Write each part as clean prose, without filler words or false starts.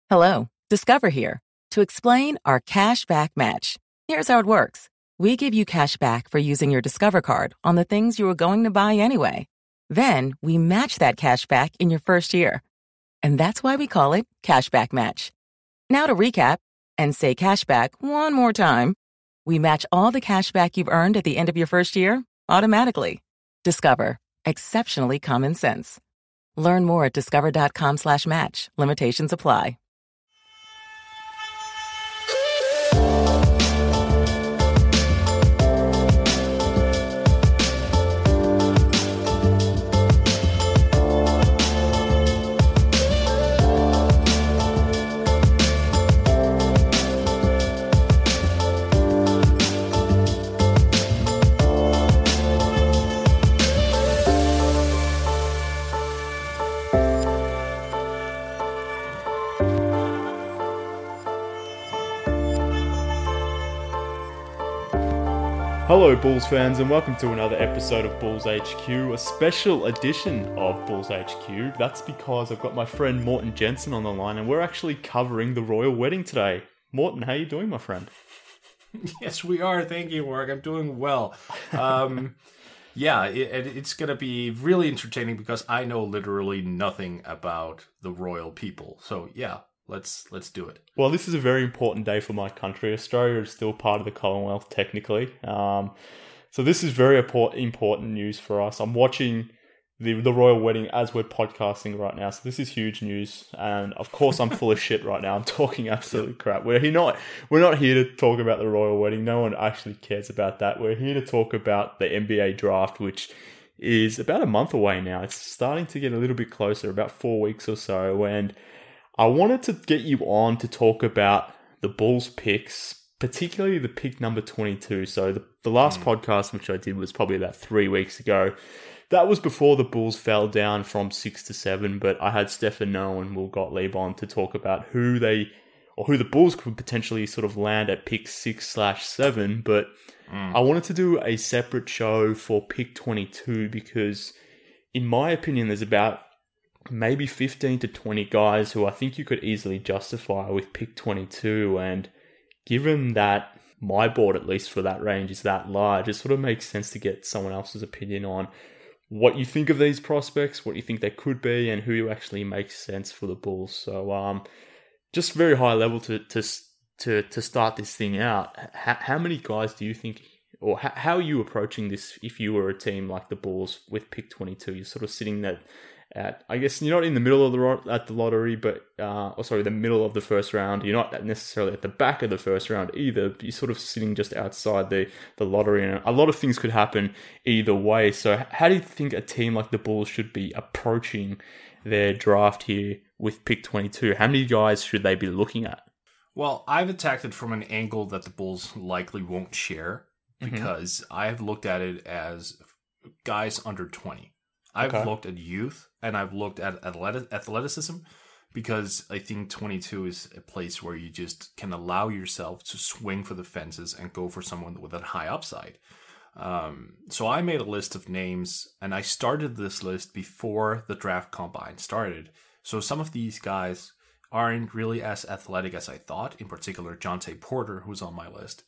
Hello, Discover here to explain our cash back match. Here's how it works. We give you cash back for using your Discover card on the things you were going to buy anyway. Then we match that cash back in your first year. And that's why we call it Cashback Match. Now to recap and say cashback one more time. We match all the cash back you've earned at the end of your first year automatically. Discover. Exceptionally common sense. Learn more at discover.com/match. Limitations apply. Hello Bulls fans and welcome to another episode of Bulls HQ, a special edition of Bulls HQ. That's because I've got my friend Morten Jensen on the line and we're actually covering the royal wedding today. Morten, how are you doing, my friend? Yes, we are. Thank you, Mark. I'm doing well. It's going to be really entertaining because I know literally nothing about the royal people. So yeah, let's do it. Well, this is a very important day for my country. Australia is still part of the Commonwealth, technically. So this is very important news for us. I'm watching the royal wedding as we're podcasting right now. So this is huge news. And of course, I'm full of shit right now. I'm talking absolute crap. We're not here to talk about the royal wedding. No one actually cares about that. We're here to talk about the NBA draft, which is about a month away now. It's starting to get a little bit closer, about 4 weeks or so. And I wanted to get you on to talk about the Bulls picks, particularly the pick number 22. So the last podcast, which I did, was probably about 3 weeks ago. That was before the Bulls fell down from 6 to 7, but I had Stefan Noah and Will Gottlieb on to talk about who the Bulls could potentially sort of land at pick 6/7. But I wanted to do a separate show for pick 22 because, in my opinion, there's about maybe 15 to 20 guys who I think you could easily justify with pick 22. And given that my board, at least for that range, is that large, it sort of makes sense to get someone else's opinion on what you think of these prospects, what you think they could be, and who actually makes sense for the Bulls. So just very high level to start this thing out. How many guys do you think, or how are you approaching this if you were a team like the Bulls with pick 22? You're sort of sitting there at, I guess you're not in the middle of the lottery, but the middle of the first round. You're not necessarily at the back of the first round either. You're sort of sitting just outside the lottery, and a lot of things could happen either way. So how do you think a team like the Bulls should be approaching their draft here with pick 22? How many guys should they be looking at? Well, I've attacked it from an angle that the Bulls likely won't share because I have looked at it as guys under 20. I've looked at youth and I've looked at athleticism because I think 22 is a place where you just can allow yourself to swing for the fences and go for someone with a high upside. So I made a list of names and I started this list before the draft combine started. So some of these guys aren't really as athletic as I thought, in particular Jontay Porter, who's on my list.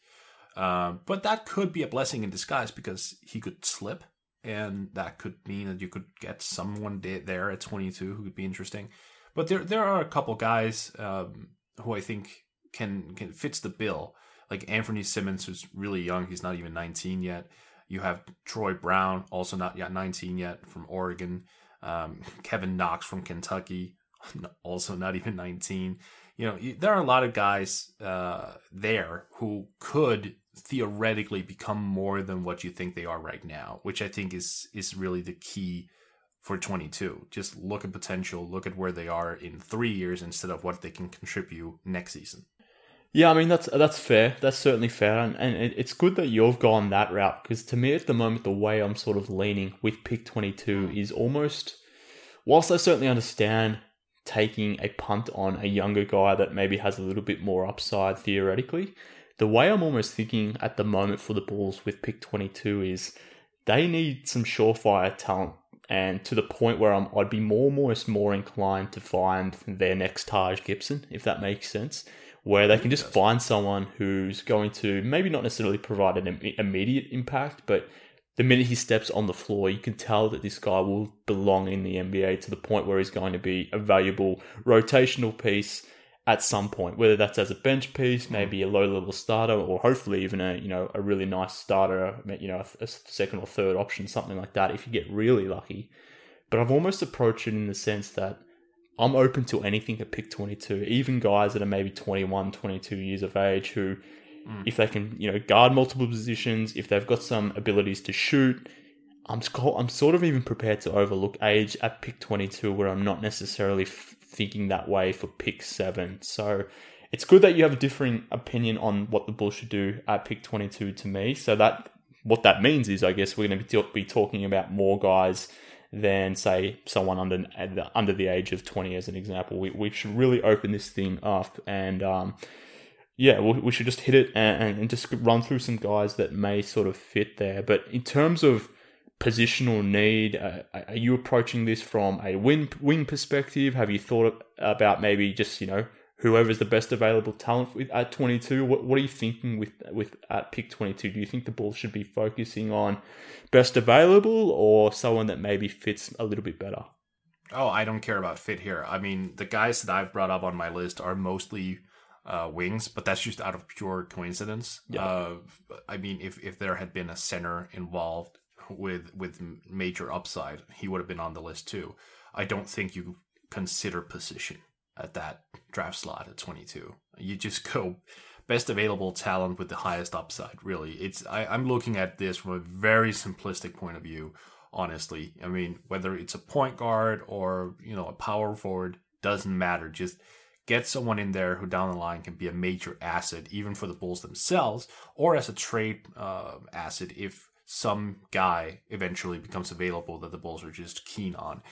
But that could be a blessing in disguise because he could slip. And that could mean that you could get someone there at 22 who could be interesting. But there are a couple guys who I think can fits the bill. Like Anthony Simmons, who's really young. He's not even 19 yet. You have Troy Brown, also not yet 19 yet, from Oregon. Kevin Knox from Kentucky, also not even 19. You know, there are a lot of guys there who could theoretically become more than what you think they are right now, which I think is really the key for 22. Just look at potential, look at where they are in 3 years instead of what they can contribute next season. Yeah, I mean, that's fair. That's certainly fair. And it's good that you've gone that route because to me at the moment, the way I'm sort of leaning with pick 22 is almost, whilst I certainly understand taking a punt on a younger guy that maybe has a little bit more upside theoretically, the way I'm almost thinking at the moment for the Bulls with pick 22 is they need some surefire talent and to the point where I'd be almost more inclined to find their next Taj Gibson, if that makes sense, where they can just find someone who's going to maybe not necessarily provide an immediate impact, but the minute he steps on the floor, you can tell that this guy will belong in the NBA to the point where he's going to be a valuable rotational piece at some point, whether that's as a bench piece, maybe a low-level starter, or hopefully even a really nice starter, a second or third option, something like that, if you get really lucky. But I've almost approached it in the sense that I'm open to anything at pick 22, even guys that are maybe 21, 22 years of age who, if they can, guard multiple positions, if they've got some abilities to shoot, I'm sort of even prepared to overlook age at pick 22 where I'm not necessarily thinking that way for pick 7. So it's good that you have a differing opinion on what the Bulls should do at pick 22 to me. So that what that means is, I guess, we're going to be talking about more guys than, say, someone under the age of 20 as an example. We should really open this thing up and we should just hit it and just run through some guys that may sort of fit there. But in terms of positional need, are you approaching this from a wing perspective? Have you thought about maybe just whoever's the best available talent at 22? What are you thinking with at pick 22? Do you think the Bulls should be focusing on best available or someone that maybe fits a little bit better? Oh, I don't care about fit here. I mean, the guys that I've brought up on my list are mostly wings, but that's just out of pure coincidence. Yeah. I mean, if there had been a center involved with major upside, he would have been on the list too. I don't think you consider position at that draft slot at 22. You just go best available talent with the highest upside. Really, I'm looking at this from a very simplistic point of view. Honestly, I mean, whether it's a point guard or a power forward doesn't matter. Just get someone in there who down the line can be a major asset, even for the Bulls themselves, or as a trade asset if some guy eventually becomes available that the Bulls are just keen on,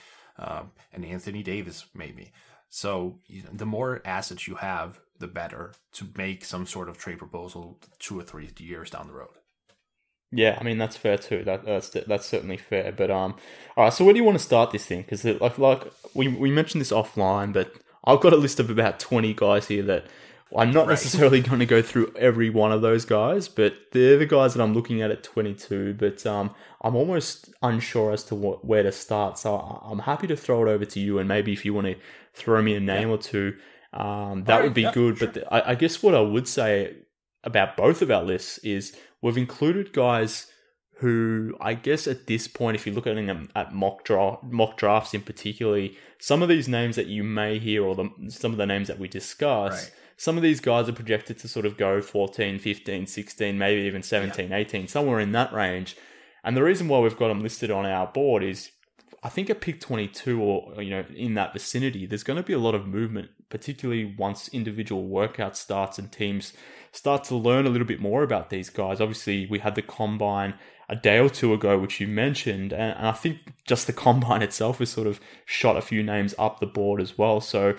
and Anthony Davis maybe. So the more assets you have, the better to make some sort of trade proposal 2 or 3 years down the road. Yeah, I mean that's fair too. That's certainly fair. But all right. So where do you want to start this thing? Because like we mentioned this offline, but I've got a list of about 20 guys here that I'm not necessarily going to go through every one of those guys, but they're the guys that I'm looking at 22. But I'm almost unsure as to where to start. So I'm happy to throw it over to you, and maybe if you want to throw me a name or two, that would be good. Sure. But I guess what I would say about both of our lists is we've included guys who, I guess at this point, if you look at them at mock drafts in particularly, some of these names that you may hear or some of the names that we discuss, right, some of these guys are projected to sort of go 14, 15, 16, maybe even 17, 18, somewhere in that range. And the reason why we've got them listed on our board is I think at pick 22 or in that vicinity, there's going to be a lot of movement, particularly once individual workout starts and teams start to learn a little bit more about these guys. Obviously, we had the combine a day or two ago, which you mentioned, and I think just the combine itself has sort of shot a few names up the board as well. So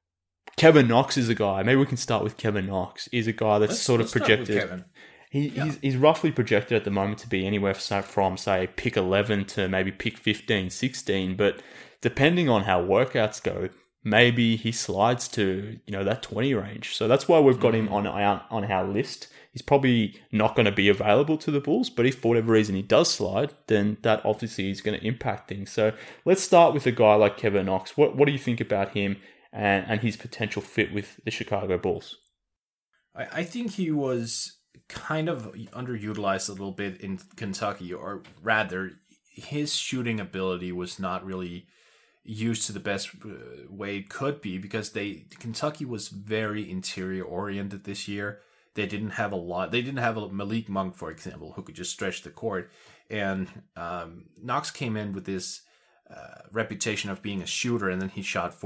Kevin Knox is a guy. Maybe we can start with Kevin Knox. He's a guy that's sort of projected. He's roughly projected at the moment to be anywhere from, say, pick 11 to maybe pick 15, 16. But depending on how workouts go, maybe he slides to, that 20 range. So that's why we've got him on our list. He's probably not going to be available to the Bulls, but if for whatever reason he does slide, then that obviously is going to impact things. So let's start with a guy like Kevin Knox. What do you think about him and his potential fit with the Chicago Bulls? I think he was kind of underutilized a little bit in Kentucky, or rather, his shooting ability was not really used to the best way it could be because Kentucky was very interior oriented this year. They didn't have a lot. They didn't have a Malik Monk, for example, who could just stretch the court. And Knox came in with this reputation of being a shooter, and then he shot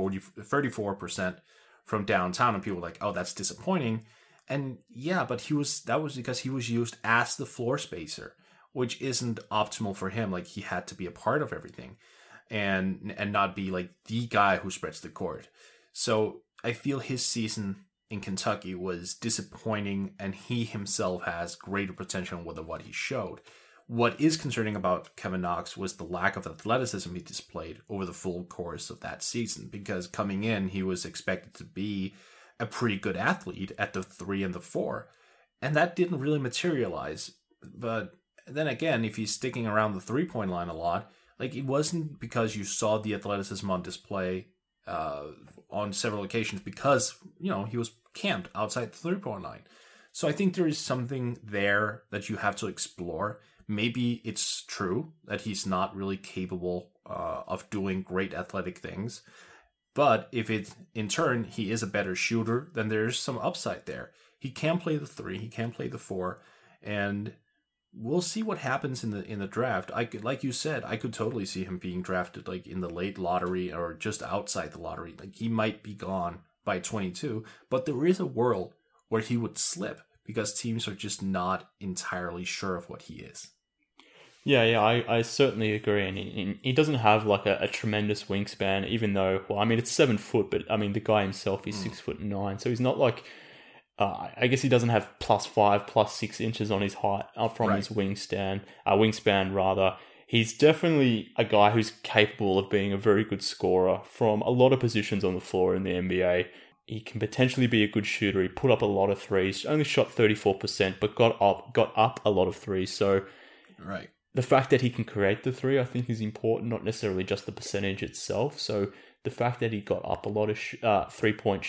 34% from downtown, and people were like, "Oh, that's disappointing." And yeah, but that was because he was used as the floor spacer, which isn't optimal for him. Like, he had to be a part of everything, and not be like the guy who spreads the court. So I feel his season in Kentucky was disappointing, and he himself has greater potential than what he showed. What is concerning about Kevin Knox was the lack of athleticism he displayed over the full course of that season, because coming in, he was expected to be a pretty good athlete at the 3 and the 4, and that didn't really materialize. But then again, if he's sticking around the 3-point line a lot, like, it wasn't because you saw the athleticism on display on several occasions, because, you know, he was camped outside the 3-point line. So I think there is something there that you have to explore. Maybe it's true that he's not really capable of doing great athletic things. But if in turn he is a better shooter, then there's some upside there. He can play the 3, he can play the 4, and we'll see what happens in the draft. Like you said, I could totally see him being drafted like in the late lottery or just outside the lottery. Like, he might be gone by 22, but there is a world where he would slip because teams are just not entirely sure of what he is. Yeah, I certainly agree. And he doesn't have like a tremendous wingspan, even though, well, I mean, it's 7 foot, but I mean, the guy himself is 6'9", so he's not like, I guess he doesn't have +5, +6 inches on his height from his wingspan rather. He's definitely a guy who's capable of being a very good scorer from a lot of positions on the floor in the NBA. He can potentially be a good shooter. He put up a lot of threes, only shot 34%, but got up a lot of threes. So the fact that he can create the 3, I think, is important, not necessarily just the percentage itself. So the fact that he got up a lot of 3-point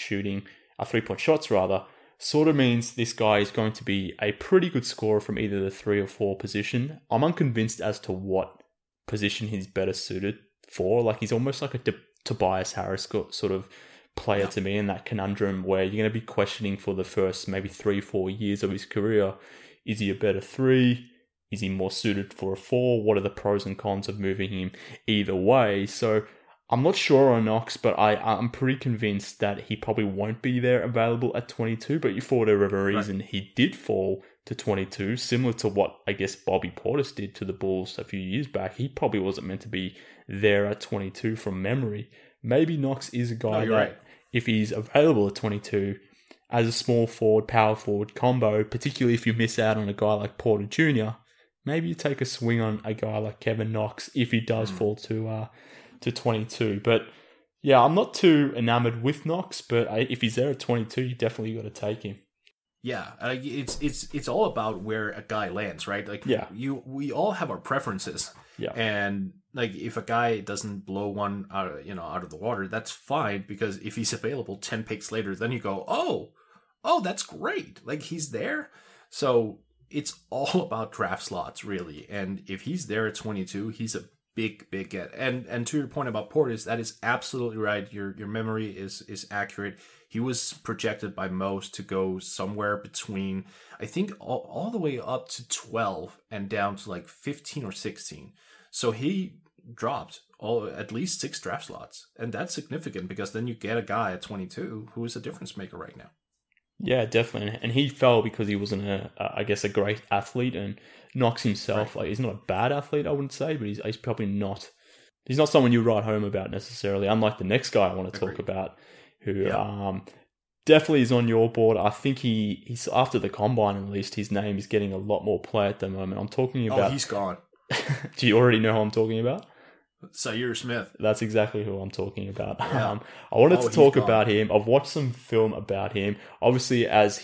shots rather, sort of means this guy is going to be a pretty good scorer from either the 3 or 4 position. I'm unconvinced as to what position he's better suited for. Like, he's almost like a Tobias Harris sort of player to me, in that conundrum where you're going to be questioning for the first maybe 3-4 years of his career. Is he a better 3? Is he more suited for a 4? What are the pros and cons of moving him either way? So I'm not sure on Knox, but I'm pretty convinced that he probably won't be there available at 22. But for whatever reason, he did fall to 22, similar to what I guess Bobby Portis did to the Bulls a few years back. He probably wasn't meant to be there at 22 from memory. Maybe Knox is a guy that, if he's available at 22, as a small forward, power forward combo, particularly if you miss out on a guy like Porter Jr., maybe you take a swing on a guy like Kevin Knox if he does fall to 22. But yeah, I'm not too enamored with Knox, but if he's there at 22, you definitely got to take him. Yeah, it's all about where a guy lands, right? Like, we all have our preferences. Yeah. And like, if a guy doesn't blow one out of the water, that's fine, because if he's available 10 picks later, then you go, oh, that's great. Like, he's there. So it's all about draft slots, really. And if he's there at 22, he's a big get. And to your point about Portis, that is absolutely right. Your memory is accurate. He was projected by most to go somewhere between, I think, all the way up to 12 and down to like 15 or 16. So he dropped at least 6 draft slots. And that's significant, because then you get a guy at 22 who is a difference maker right now. Yeah, definitely. And he fell because he wasn't a great athlete. And Knox himself, like, he's not a bad athlete, I wouldn't say, but he's probably not. He's not someone you write home about necessarily. Unlike the next guy I want to talk about, who definitely is on your board. I think he's after the combine, at least, his name is getting a lot more play at the moment. I'm talking about. Oh, he's gone. Do you already know who I'm talking about? Zaire Smith. That's exactly who I'm talking about. Yeah. I wanted to talk about him. I've watched some film about him. Obviously, as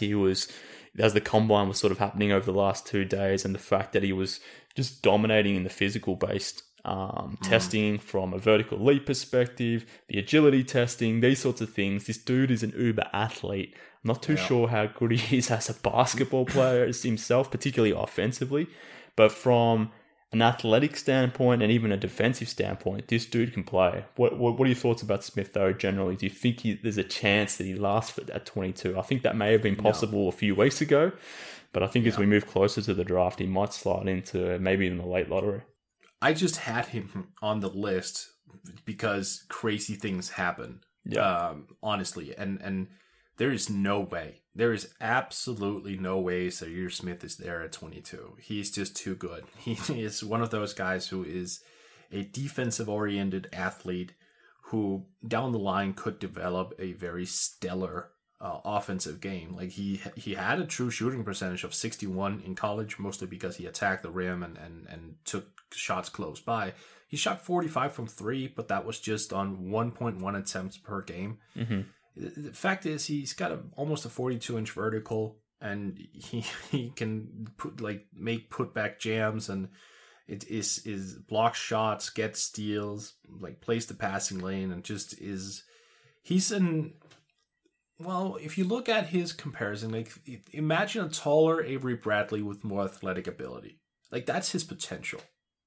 the combine was sort of happening over the last 2 days, and the fact that he was just dominating in the physical-based testing from a vertical leap perspective, the agility testing, these sorts of things. This dude is an uber athlete. I'm not too sure how good he is as a basketball player himself, particularly offensively, but from an athletic standpoint and even a defensive standpoint, this dude can play. What are your thoughts about Smith, though, generally? Do you think there's a chance that he lasts at 22? I think that may have been possible a few weeks ago, but I think as we move closer to the draft, he might slide into maybe in the late lottery. I just had him on the list because crazy things happen, honestly. And there is no way. There is absolutely no way Zaire Smith is there at 22. He's just too good. He is one of those guys who is a defensive-oriented athlete who, down the line, could develop a very stellar offensive game. Like he had a true shooting percentage of 61 in college, mostly because he attacked the rim and took shots close by. He shot 45 from 3, but that was just on 1.1 attempts per game. Mm-hmm. The fact is, he's got almost a 42-inch vertical, and he can make putback jams, and it is block shots, get steals, like plays the passing lane, and just is well, if you look at his comparison, like imagine a taller Avery Bradley with more athletic ability. Like that's his potential.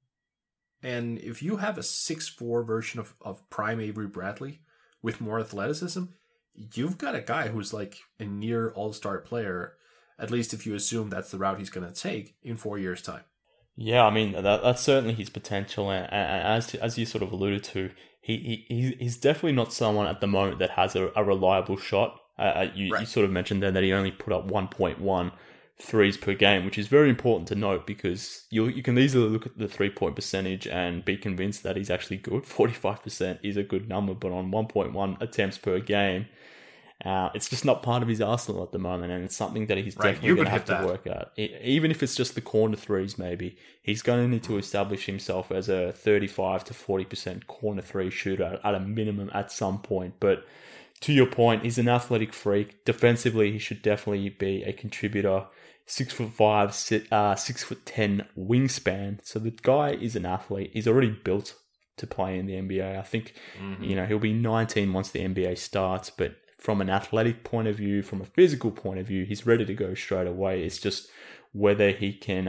And if you have a 6'4" version of prime Avery Bradley with more athleticism, you've got a guy who's like a near all-star player, at least if you assume that's the route he's going to take in 4 years' time. Yeah, I mean, that's certainly his potential. And as you sort of alluded to, he's definitely not someone at the moment that has a reliable shot. You sort of mentioned there that he only put up 1.1 threes per game, which is very important to note because you can easily look at the 3-point percentage and be convinced that he's actually good. 45% is a good number, but on 1.1 attempts per game, it's just not part of his arsenal at the moment, and it's something that he's definitely going to have to work at. Even if it's just the corner threes, maybe, he's going to need to establish himself as a 35 to 40% corner three shooter at a minimum at some point. But to your point, he's an athletic freak. Defensively, he should definitely be a contributor. 6'5", 6'10" wingspan. So the guy is an athlete. He's already built to play in the NBA. I think, he'll be 19 once the NBA starts, but from an athletic point of view, from a physical point of view, he's ready to go straight away. It's just whether he can,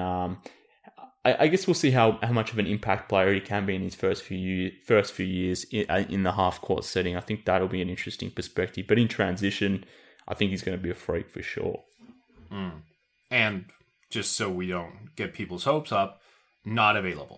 I guess we'll see how much of an impact player he can be in his first few years in the half-court setting. I think that'll be an interesting perspective. But in transition, I think he's going to be a freak for sure. And just so we don't get people's hopes up, not available.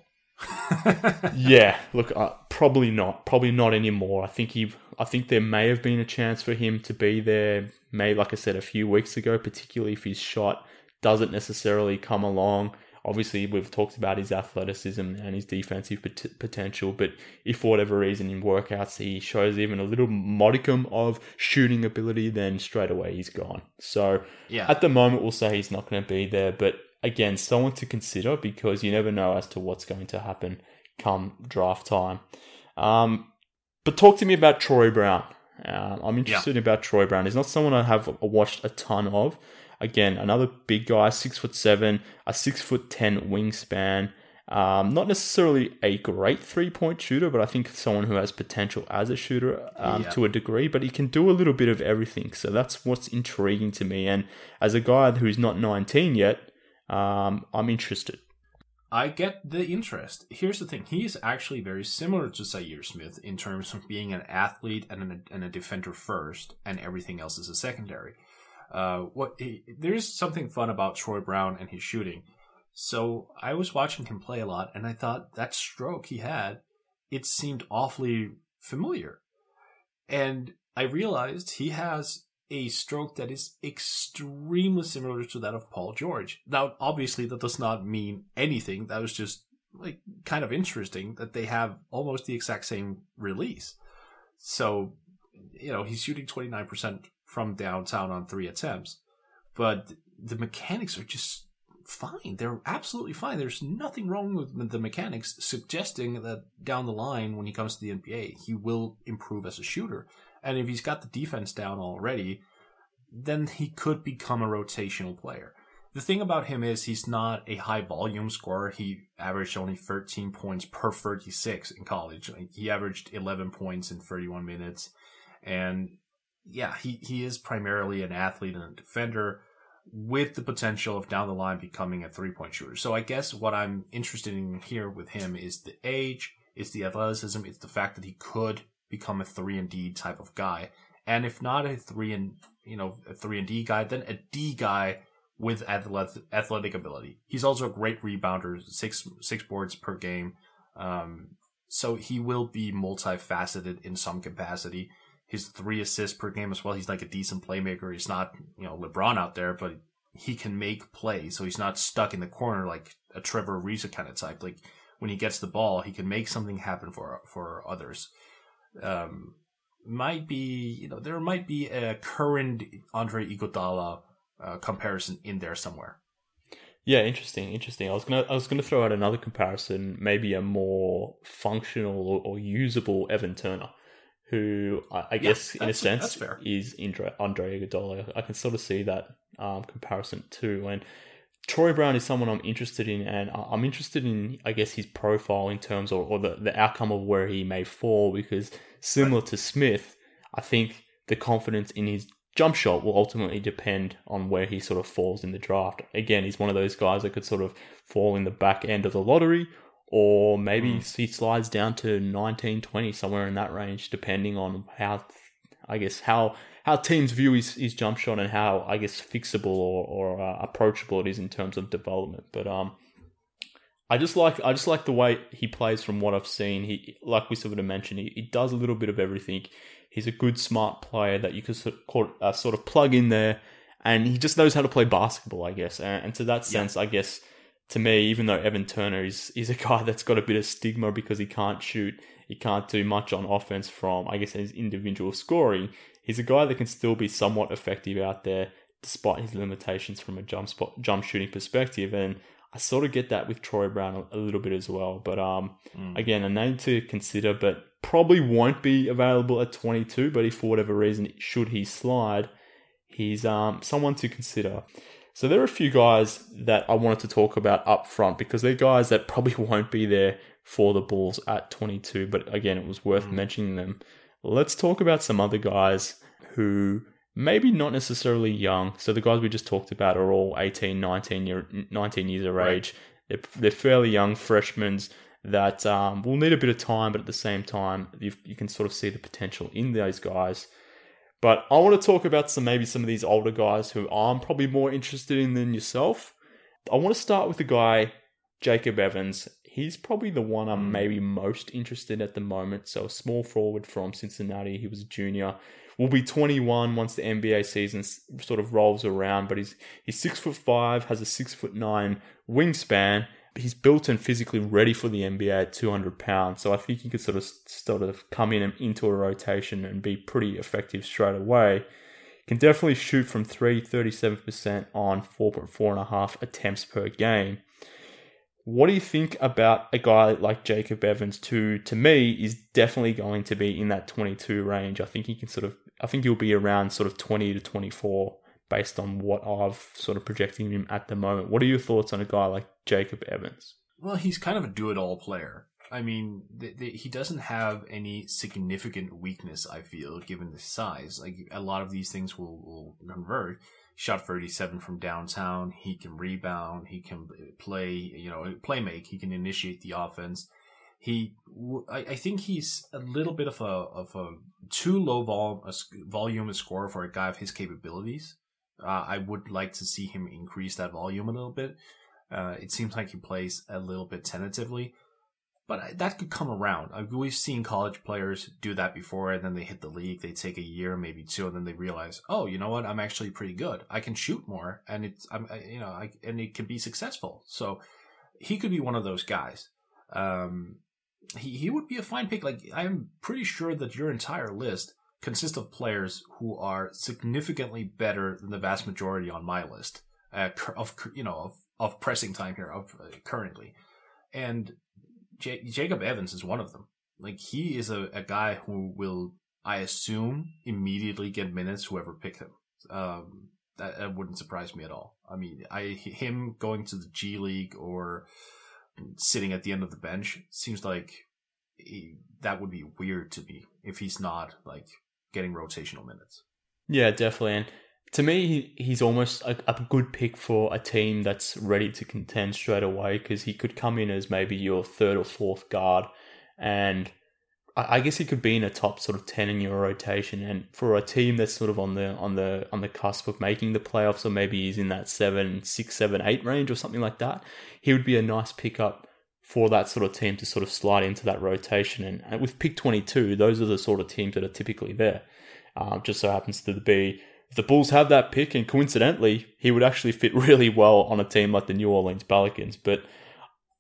Yeah, look, probably not anymore. I think there may have been a chance for him to be there, maybe like I said a few weeks ago, particularly if his shot doesn't necessarily come along. Obviously, we've talked about his athleticism and his defensive potential, but if for whatever reason in workouts he shows even a little modicum of shooting ability, then straight away he's gone. So At the moment, we'll say he's not going to be there, but again, someone to consider because you never know as to what's going to happen come draft time. But talk to me about Troy Brown. I'm interested about Troy Brown. He's not someone I have watched a ton of. Again, another big guy, 6'7", a 6'10" wingspan. Not necessarily a great 3-point shooter, but I think someone who has potential as a shooter to a degree. But he can do a little bit of everything, so that's what's intriguing to me. And as a guy who's not 19 yet, I'm interested. I get the interest. Here's the thing. He is actually very similar to Zaire Smith in terms of being an athlete and a defender first, and everything else is a secondary. There's something fun about Troy Brown and his shooting. So I was watching him play a lot, and I thought that stroke he had, it seemed awfully familiar. And I realized he has a stroke that is extremely similar to that of Paul George. Now, obviously, that does not mean anything. That was just like kind of interesting that they have almost the exact same release. So, he's shooting 29% from downtown on 3 attempts, but the mechanics are just fine. They're absolutely fine. There's nothing wrong with the mechanics, suggesting that down the line, when he comes to the NBA, he will improve as a shooter. And if he's got the defense down already, then he could become a rotational player. The thing about him is he's not a high volume scorer. He averaged only 13 points per 36 in college. He averaged 11 points in 31 minutes. And yeah, he is primarily an athlete and a defender with the potential of down the line becoming a 3-point shooter. So I guess what I'm interested in here with him is the age, it's the athleticism, it's the fact that he could become a 3-and-D type of guy. And if not a 3-and-D guy, then a D guy with athletic ability. He's also a great rebounder, six boards per game. So he will be multifaceted in some capacity. His 3 assists per game as well. He's like a decent playmaker. He's not, LeBron out there, but he can make plays. So he's not stuck in the corner like a Trevor Ariza kind of type. Like when he gets the ball, he can make something happen for others. might be, there might be a current Andre Iguodala comparison in there somewhere. Yeah, interesting. I was gonna throw out another comparison, maybe a more functional or usable Evan Turner, who I guess in a sense is Andre Iguodala. I can sort of see that comparison too. And Troy Brown is someone I'm interested in, and I'm interested in, I guess, his profile in terms of, or the outcome of where he may fall, because similar to Smith, I think the confidence in his jump shot will ultimately depend on where he sort of falls in the draft. Again, he's one of those guys that could sort of fall in the back end of the lottery, or maybe he slides down to 19, 20, somewhere in that range, depending on how teams view his jump shot and how, I guess, fixable or approachable it is in terms of development. But I just like the way he plays from what I've seen. He, like we sort of mentioned, he does a little bit of everything. He's a good, smart player that you could sort of plug in there, and he just knows how to play basketball, I guess. And to that sense, I guess, to me, even though Evan Turner is a guy that's got a bit of stigma because he can't shoot, he can't do much on offense from, I guess, his individual scoring, he's a guy that can still be somewhat effective out there despite his limitations from a jump shooting perspective. And I sort of get that with Troy Brown a little bit as well. But again, a name to consider, but probably won't be available at 22. But if for whatever reason, should he slide, he's someone to consider. So there are a few guys that I wanted to talk about up front, because they're guys that probably won't be there for the Bulls at 22. But again, it was worth mentioning them. Let's talk about some other guys who maybe not necessarily young. So the guys we just talked about are all 18, 19 years of age. They're fairly young freshmen that will need a bit of time, but at the same time, you can sort of see the potential in those guys. But I want to talk about some of these older guys who I'm probably more interested in than yourself. I want to start with the guy, Jacob Evans. He's probably the one I'm maybe most interested in at the moment. So a small forward from Cincinnati. He was a junior. Will be 21 once the NBA season sort of rolls around. But he's 6'5", has a 6'9" wingspan. He's built and physically ready for the NBA at 200 pounds. So I think he could sort of come in and into a rotation and be pretty effective straight away. Can definitely shoot from 3, 37% on 4.5 attempts per game. What do you think about a guy like Jacob Evans, who to me is definitely going to be in that 22 range? I think he'll be around sort of 20 to 24 based on what I've sort of projecting him at the moment. What are your thoughts on a guy like Jacob Evans? Well, he's kind of a do-it-all player. I mean, he doesn't have any significant weakness, I feel, given the size. Like, a lot of these things will convert. Shot 37 from downtown. He can rebound. He can play make. He can initiate the offense. I think he's a little bit of a too low volume scorer for a guy of his capabilities. I would like to see him increase that volume a little bit. It seems like he plays a little bit tentatively, but that could come around. We've seen college players do that before, and then they hit the league. They take a year, maybe two, and then they realize, oh, you know what? I'm actually pretty good. I can shoot more, and and it can be successful. So he could be one of those guys. He would be a fine pick. Like, I'm pretty sure that your entire list consists of players who are significantly better than the vast majority on my list of pressing time here currently. And Jacob Evans is one of them. Like, he is a guy who will, I assume, immediately get minutes whoever picked him. That wouldn't surprise me at all. I mean, him going to the G League or sitting at the end of the bench seems like that would be weird to me if he's not like getting rotational minutes. Yeah, definitely. And to me, he's almost a good pick for a team that's ready to contend straight away, because he could come in as maybe your third or fourth guard, and I guess he could be in a top sort of 10 in your rotation. And for a team that's sort of on the cusp of making the playoffs, or maybe he's in that 6, 7, 8 range or something like that, he would be a nice pickup for that sort of team to sort of slide into that rotation. And with pick 22, those are the sort of teams that are typically there. Just so happens to be, if the Bulls have that pick, and coincidentally, he would actually fit really well on a team like the New Orleans Pelicans. But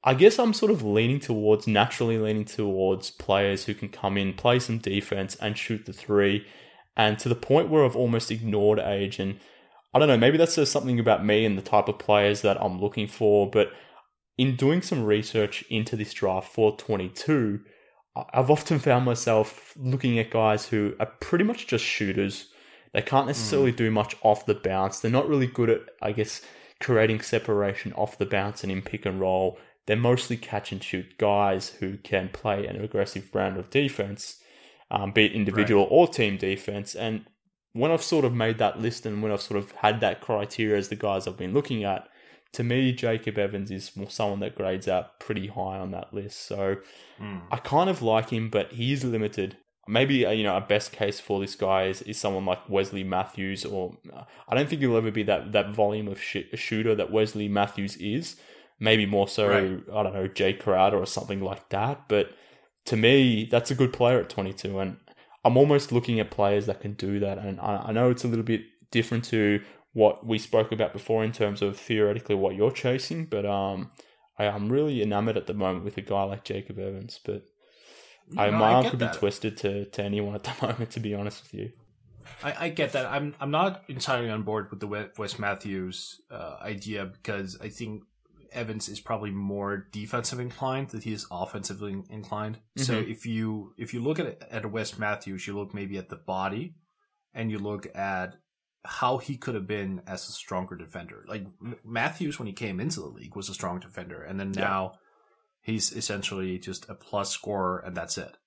I guess I'm sort of naturally leaning towards players who can come in, play some defense and shoot the three. And to the point where I've almost ignored age. And I don't know, maybe that says something about me and the type of players that I'm looking for. But in doing some research into this draft for 22, I've often found myself looking at guys who are pretty much just shooters. They can't necessarily do much off the bounce. They're not really good at, I guess, creating separation off the bounce and in pick and roll. They're mostly catch and shoot guys who can play an aggressive brand of defense, be it individual or team defense. And when I've sort of made that list and when I've sort of had that criteria as the guys I've been looking at, to me, Jacob Evans is someone that grades out pretty high on that list. So I kind of like him, but he is limited. Maybe, a best case for this guy is someone like Wesley Matthews, or I don't think he'll ever be that volume of shooter that Wesley Matthews is. Maybe more so, I don't know, Jay Crowder or something like that. But to me, that's a good player at 22. And I'm almost looking at players that can do that. And I know it's a little bit different to what we spoke about before in terms of theoretically what you're chasing. But I'm really enamored at the moment with a guy like Jacob Evans. But my arm could be twisted to anyone at the moment, to be honest with you. I get that. I'm not entirely on board with the Wes Matthews idea, because I think Evans is probably more defensive inclined than he is offensively inclined. Mm-hmm. So if you look at a Wes Matthews, you look maybe at the body, and you look at how he could have been as a stronger defender. Like Matthews, when he came into the league, was a strong defender, and then now he's essentially just a plus scorer, and that's it.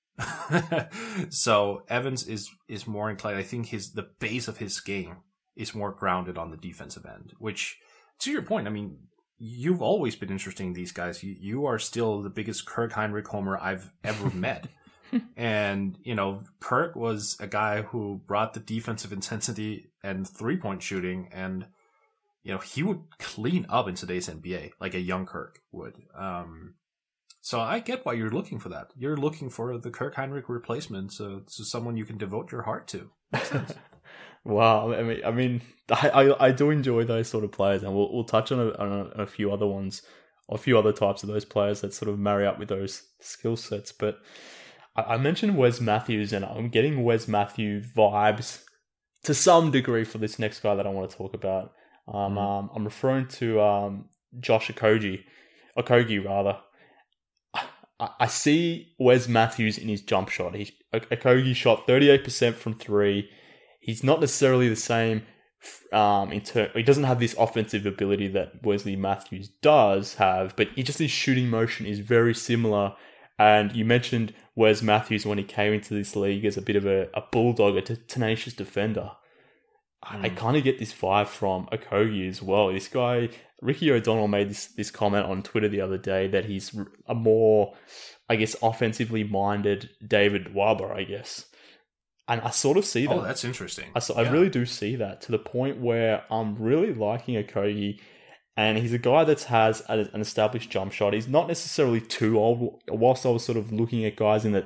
So Evans is more inclined. I think the base of his game is more grounded on the defensive end, which, to your point, I mean, you've always been interested in these guys. You are still the biggest Kirk Hinrich homer I've ever met. And, Kirk was a guy who brought the defensive intensity and 3-point shooting, and, he would clean up in today's NBA like a young Kirk would. So I get why you're looking for that. You're looking for the Kirk Hinrich replacement, so someone you can devote your heart to. Wow, I mean, I do enjoy those sort of players, and we'll touch on a few other ones, or a few other types of those players that sort of marry up with those skill sets. But I mentioned Wes Matthews, and I'm getting Wes Matthews vibes to some degree for this next guy that I want to talk about. I'm referring to Josh Okogie rather. I see Wes Matthews in his jump shot. Okogie shot 38% from 3. He's not necessarily the same he doesn't have this offensive ability that Wesley Matthews does have, but his shooting motion is very similar. And you mentioned Wes Matthews when he came into this league as a bit of a bulldog, a tenacious defender. I kind of get this vibe from Okogie as well. This guy, Ricky O'Donnell, made this comment on Twitter the other day that he's a more, I guess, offensively minded David Waba, I guess. And I sort of see that. Oh, that's interesting. I really do see that, to the point where I'm really liking Okogie. And he's a guy that has an established jump shot. He's not necessarily too old. Whilst I was sort of looking at guys in the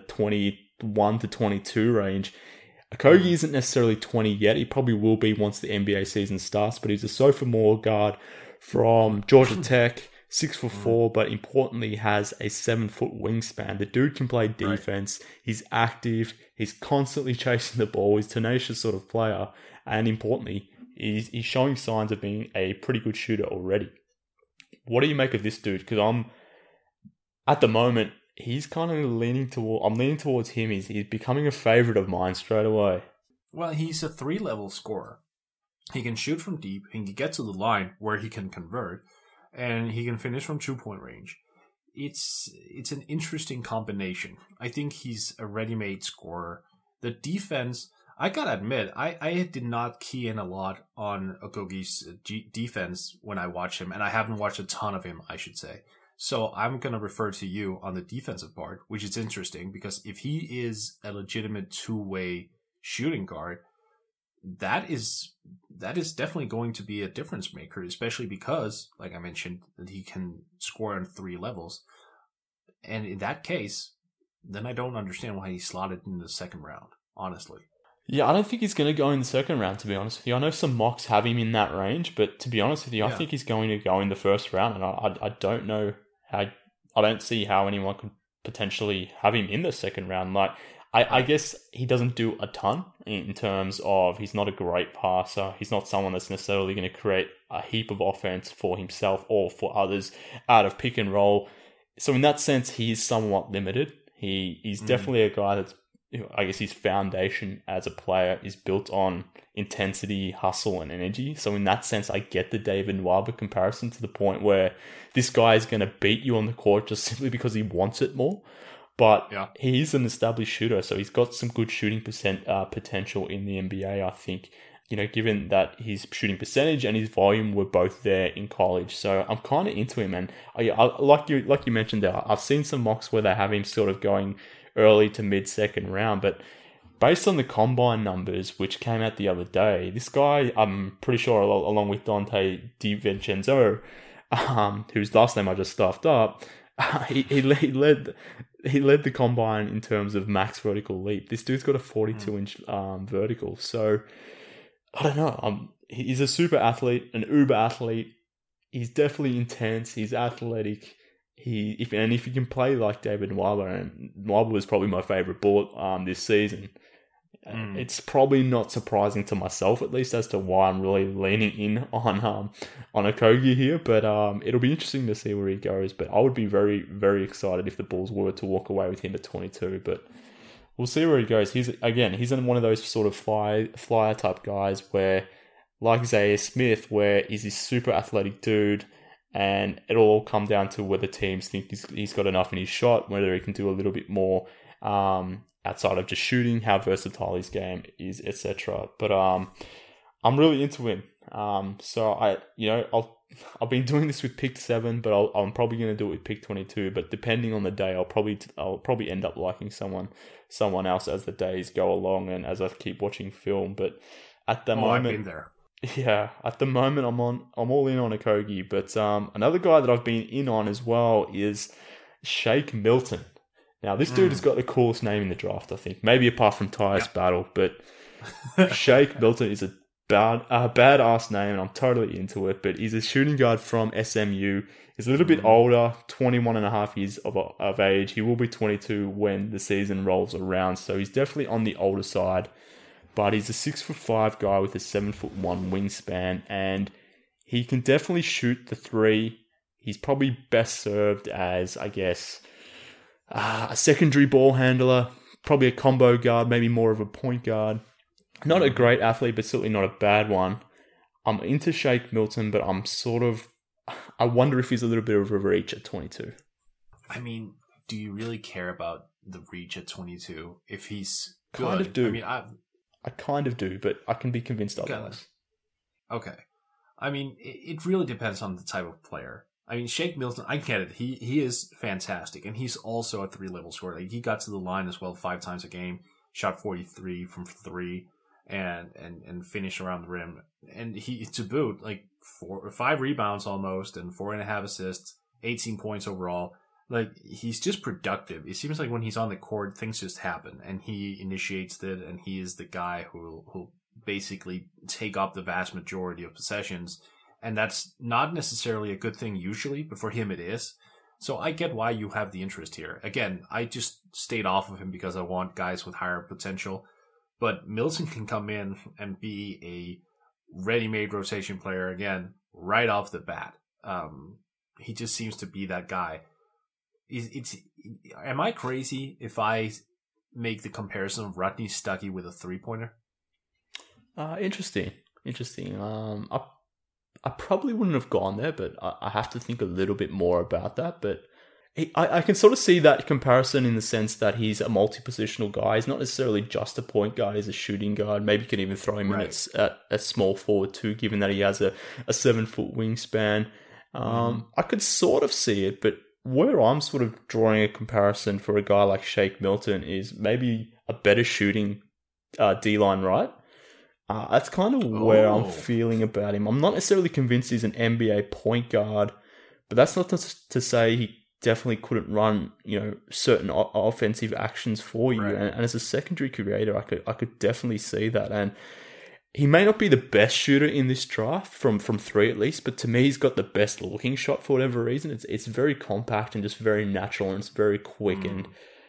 21 to 22 range, Okogie isn't necessarily 20 yet. He probably will be once the NBA season starts. But he's a sophomore guard from Georgia Tech, 6'4", but importantly has a 7-foot wingspan. The dude can play defense. Right. He's active. He's constantly chasing the ball. He's a tenacious sort of player. And importantly, he's showing signs of being a pretty good shooter already. What do you make of this dude? Because at the moment, he's kind of I'm leaning towards him. He's becoming a favorite of mine straight away. Well, he's a 3-level scorer. He can shoot from deep. He can get to the line where he can convert, and he can finish from 2-point range. It's an interesting combination. I think he's a ready-made scorer. The defense, I gotta admit, I did not key in a lot on Okogie's defense when I watched him, and I haven't watched a ton of him, I should say. So I'm going to refer to you on the defensive part, which is interesting, because if he is a legitimate two-way shooting guard, that is definitely going to be a difference maker, especially because, like I mentioned, that he can score on 3 levels. And in that case, then I don't understand why he slotted in the second round, honestly. Yeah, I don't think he's going to go in the second round, to be honest with you. I know some mocks have him in that range, but to be honest with you, I think he's going to go in the first round, and I don't know how I don't see how anyone could potentially have him in the second round. Like, I guess he doesn't do a ton in terms of he's not a great passer. He's not someone that's necessarily going to create a heap of offense for himself or for others out of pick and roll. So in that sense, he is somewhat limited. He's definitely a guy that's, I guess his foundation as a player is built on intensity, hustle, and energy. So in that sense, I get the David Nwaba comparison to the point where this guy is going to beat you on the court just simply because he wants it more. But he is an established shooter, so he's got some good shooting potential in the NBA, I think. Given that his shooting percentage and his volume were both there in college. So I'm kind of into him. And I like you mentioned there, I've seen some mocks where they have him sort of going early to mid-second round. But based on the combine numbers, which came out the other day, this guy, I'm pretty sure, along with Dante DiVincenzo, whose last name I just stuffed up, he led the combine in terms of max vertical leap. This dude's got a 42-inch vertical. So I don't know. He's a super athlete, an uber athlete. He's definitely intense. He's athletic. If he can play like David Nwaba, and Nwaba was probably my favorite bullet this season. It's probably not surprising to myself, at least, as to why I'm really leaning in on Okogie here. But it'll be interesting to see where he goes. But I would be very, very excited if the Bulls were to walk away with him at 22. But we'll see where he goes. He's in one of those sort of flyer type guys where, like Zaire Smith, where he's this super athletic dude, and it'll all come down to whether teams think he's got enough in his shot, whether he can do a little bit more outside of just shooting, how versatile his game is, etc. But I'm really into him. So I've been doing this with pick 7, but I'm probably going to do it with pick 22. But depending on the day, I'll probably end up liking someone else as the days go along and as I keep watching film. But at the moment, I've been there. Yeah, at the moment I'm all in on Okogie. But another guy that I've been in on as well is Shake Milton. Now, this dude has got the coolest name in the draft, I think. Maybe apart from Tyus Battle, but Shake Milton is a badass name, and I'm totally into it. But he's a shooting guard from SMU. He's a little bit older, 21 and a half years of age. He will be 22 when the season rolls around, so he's definitely on the older side. But he's a 6'5" guy with a 7'1" wingspan, and he can definitely shoot the three. He's probably best served as, I guess, a secondary ball handler, probably a combo guard, maybe more of a point guard. Not a great athlete, but certainly not a bad one. I'm into Shake Milton, but I wonder if he's a little bit of a reach at 22. I mean, do you really care about the reach at 22 if he's good? Kind of do. I mean, I kind of do, but I can be convinced otherwise. Okay. I mean, it really depends on the type of player. I mean, Shake Milton, I get it. He is fantastic, and he's also a 3-level scorer. Like, he got to the line as well 5 times a game, shot 43 from 3, and finished around the rim. And he, to boot, like 4 or 5 rebounds almost, and 4.5 assists, 18 points overall. Like, he's just productive. It seems like when he's on the court, things just happen, and he initiates it, and he is the guy who'll basically take up the vast majority of possessions. And that's not necessarily a good thing usually, but for him it is. So I get why you have the interest here. Again, I just stayed off of him because I want guys with higher potential. But Milton can come in and be a ready-made rotation player again, right off the bat. He just seems to be that guy. Am I crazy if I make the comparison of Rodney Stuckey with a 3-pointer? Interesting. I probably wouldn't have gone there, but I have to think a little bit more about that. But I can sort of see that comparison in the sense that he's a multi-positional guy. He's not necessarily just a point guard. He's a shooting guard. Maybe you can even throw him in at a small forward too, given that he has a 7-foot wingspan. I could sort of see it, but where I'm sort of drawing a comparison for a guy like Shake Milton is maybe a better shooting D-line right. That's kind of where I'm feeling about him. I'm not necessarily convinced he's an NBA point guard, but that's not to say he definitely couldn't run, certain offensive actions for you. Right. And as a secondary creator, I could definitely see that. And he may not be the best shooter in this draft from three at least, but to me, he's got the best looking shot for whatever reason. It's very compact and just very natural, and it's very quick. And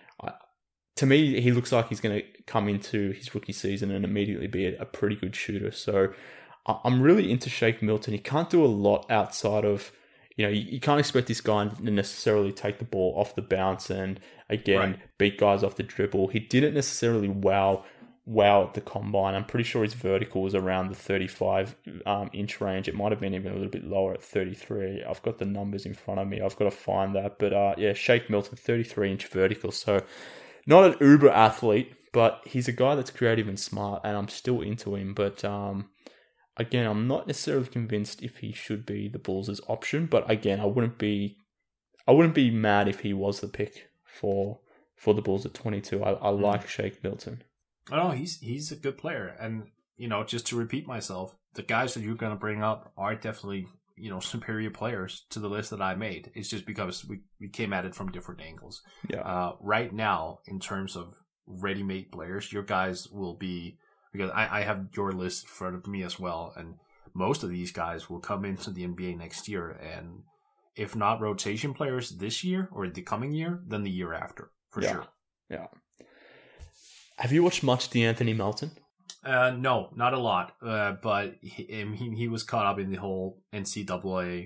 to me, he looks like he's going to come into his rookie season and immediately be a pretty good shooter. So I'm really into Shake Milton. He can't do a lot outside of, you can't expect this guy to necessarily take the ball off the bounce and, again, beat guys off the dribble. He didn't necessarily wow at the combine. I'm pretty sure his vertical was around the 35 inch range. It might have been even a little bit lower at 33. I've got the numbers in front of me. I've got to find that. But Shake Milton, 33 inch vertical. So not an uber athlete, but he's a guy that's creative and smart, and I'm still into him. But again, I'm not necessarily convinced if he should be the Bulls' option. But again, I wouldn't be mad if he was the pick for the Bulls at 22. I like Shake Milton. Oh, he's a good player, and just to repeat myself, the guys that you're going to bring up are definitely superior players to the list that I made. It's just because we came at it from different angles. Yeah. Right now, in terms of ready-made players, your guys will be, because I have your list in front of me as well, and most of these guys will come into the NBA next year, and if not rotation players this year or the coming year, then the year after for sure. Yeah. Have you watched much DeAnthony Melton? No, not a lot. But he was caught up in the whole NCAA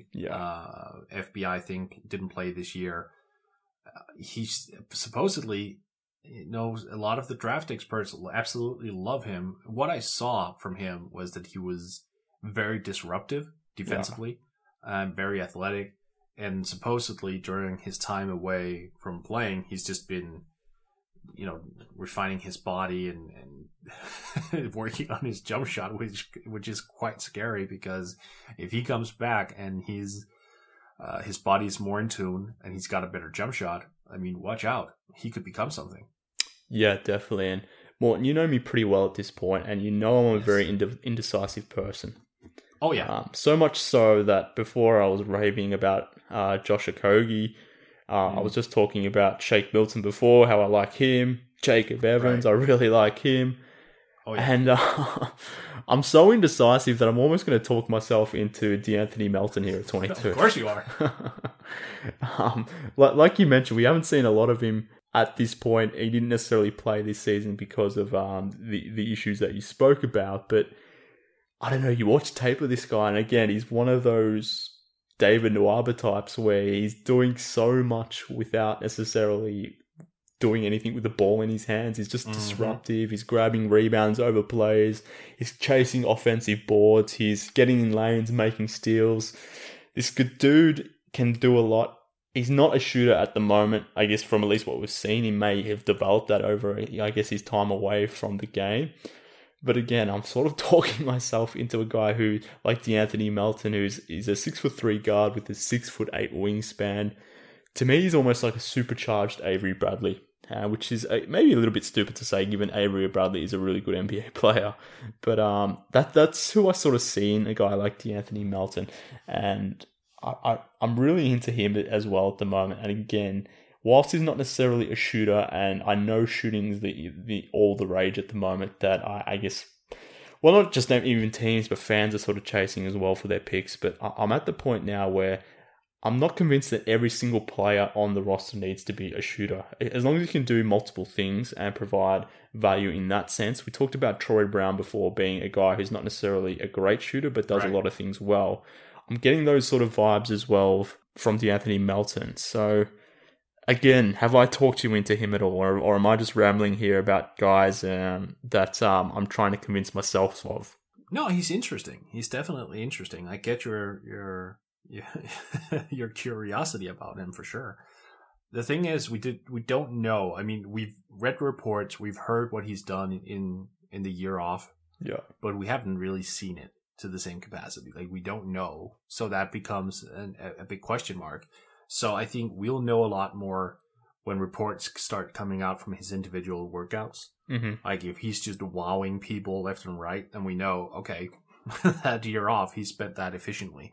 FBI thing. Didn't play this year. He supposedly knows a lot of the draft experts absolutely love him. What I saw from him was that he was very disruptive defensively, very athletic, and supposedly during his time away from playing, he's just been refining his body and working on his jump shot, which is quite scary, because if he comes back and his body is more in tune and he's got a better jump shot, I mean, watch out. He could become something. Yeah, definitely. And Morten, you know me pretty well at this point, and I'm a very indecisive person. Oh, yeah. So much so that before I was raving about Josh Okogie, I was just talking about Shake Milton before, how I like him. Jacob Evans, I really like him. Oh, yeah. And I'm so indecisive that I'm almost going to talk myself into DeAnthony Melton here at 22. Of course you are. Like you mentioned, we haven't seen a lot of him at this point. He didn't necessarily play this season because of the issues that you spoke about. But I don't know, you watch tape of this guy, and again, he's one of those David Nwaba types where he's doing so much without necessarily doing anything with the ball in his hands. He's just disruptive. He's grabbing rebounds over plays. He's chasing offensive boards. He's getting in lanes, making steals. This good dude can do a lot. He's not a shooter at the moment, I guess, from at least what we've seen. He may have developed that over, I guess, his time away from the game. But again, I'm sort of talking myself into a guy who, like DeAnthony Melton, is a 6'3" guard with a 6'8" wingspan. To me, he's almost like a supercharged Avery Bradley, which is maybe a little bit stupid to say, given Avery Bradley is a really good NBA player. But that's who I sort of see in a guy like DeAnthony Melton, and I'm really into him as well at the moment. And again, whilst he's not necessarily a shooter, and I know shooting is the all the rage at the moment, that I guess, well, not just even teams, but fans are sort of chasing as well for their picks. But I'm at the point now where I'm not convinced that every single player on the roster needs to be a shooter. As long as you can do multiple things and provide value in that sense. We talked about Troy Brown before being a guy who's not necessarily a great shooter, but does a lot of things well. I'm getting those sort of vibes as well from DeAnthony Melton. So again, have I talked you into him at all, or am I just rambling here about guys that I'm trying to convince myself of? No, he's interesting. He's definitely interesting. I get your curiosity about him for sure. The thing is, we don't know. I mean, we've read reports, we've heard what he's done in the year off, but we haven't really seen it to the same capacity. Like, we don't know, so that becomes a big question mark. So I think we'll know a lot more when reports start coming out from his individual workouts. Mm-hmm. Like, if he's just wowing people left and right, then we know, okay, that year off, he spent that efficiently.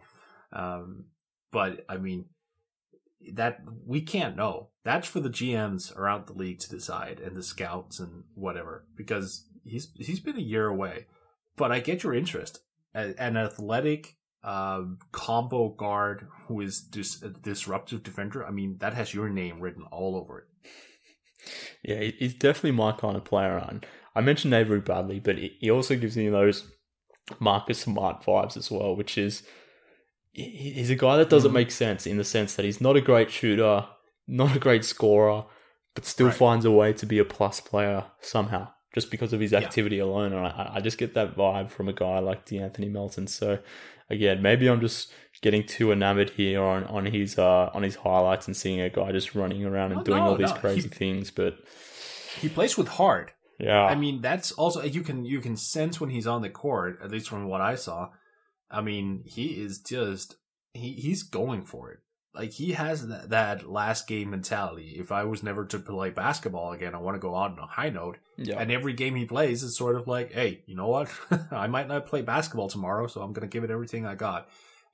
But I mean, that we can't know. That's for the GMs around the league to decide, and the scouts and whatever, because he's been a year away. But I get your interest. An athletic combo guard who is a disruptive defender. I mean, that has your name written all over it. Yeah, he's definitely my kind of player. And I mentioned Avery Bradley, but he also gives me those Marcus Smart vibes as well, which is he's a guy that doesn't make sense in the sense that he's not a great shooter, not a great scorer, but still finds a way to be a plus player somehow, just because of his activity alone. And I just get that vibe from a guy like DeAnthony Melton. So again, maybe I'm just getting too enamored here on his highlights and seeing a guy just running around and doing all these crazy things. But he plays with heart. Yeah, I mean, that's also you can sense when he's on the court, at least from what I saw. I mean, he is just he's going for it. Like, he has that last game mentality. If I was never to play basketball again, I want to go out on a high note. Yeah. And every game he plays is sort of like, hey, you know what? I might not play basketball tomorrow, so I'm going to give it everything I got.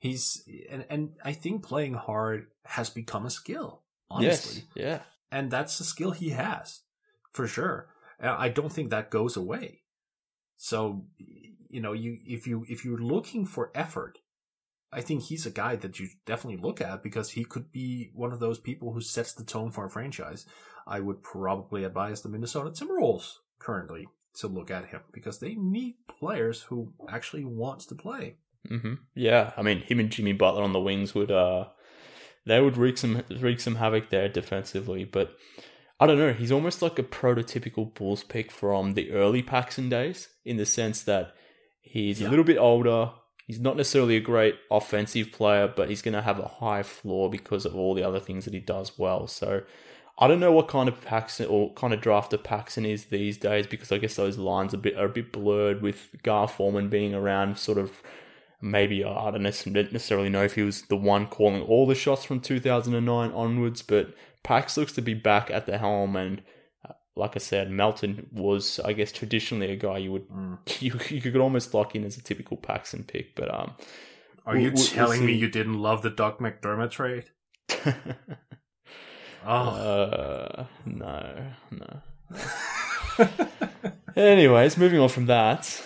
And I think playing hard has become a skill, honestly. Yes, yeah. And that's a skill he has, for sure. I don't think that goes away. So, if you're looking for effort, I think he's a guy that you definitely look at, because he could be one of those people who sets the tone for a franchise. I would probably advise the Minnesota Timberwolves currently to look at him, because they need players who actually wants to play. Mm-hmm. Yeah, I mean, him and Jimmy Butler on the wings would wreak some havoc there defensively. But I don't know, he's almost like a prototypical Bulls pick from the early Paxson days, in the sense that he's a little bit older. He's not necessarily a great offensive player, but he's going to have a high floor because of all the other things that he does well. So I don't know what kind of Paxson or kind of draft of Paxson is these days, because I guess those lines are a bit blurred with Gar Forman being around. Sort of, maybe I don't necessarily know if he was the one calling all the shots from 2009 onwards, but Pax looks to be back at the helm. And like I said, Melton was, I guess, traditionally a guy you could almost lock in as a typical Paxson pick. But are you telling me you didn't love the Doug McDermott trade? No. Anyways, moving on from that.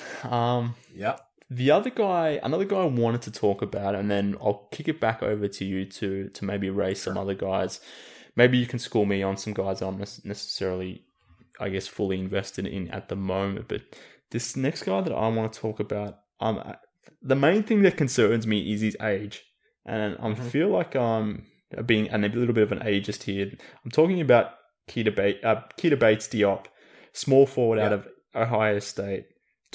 Another guy I wanted to talk about, and then I'll kick it back over to you to maybe raise some other guys. Maybe you can school me on some guys I'm necessarily, I guess, fully invested in at the moment. But this next guy that I want to talk about, the main thing that concerns me is his age. And I feel like I'm being a little bit of an ageist here. I'm talking about Keita Bates Diop, small forward out of Ohio State,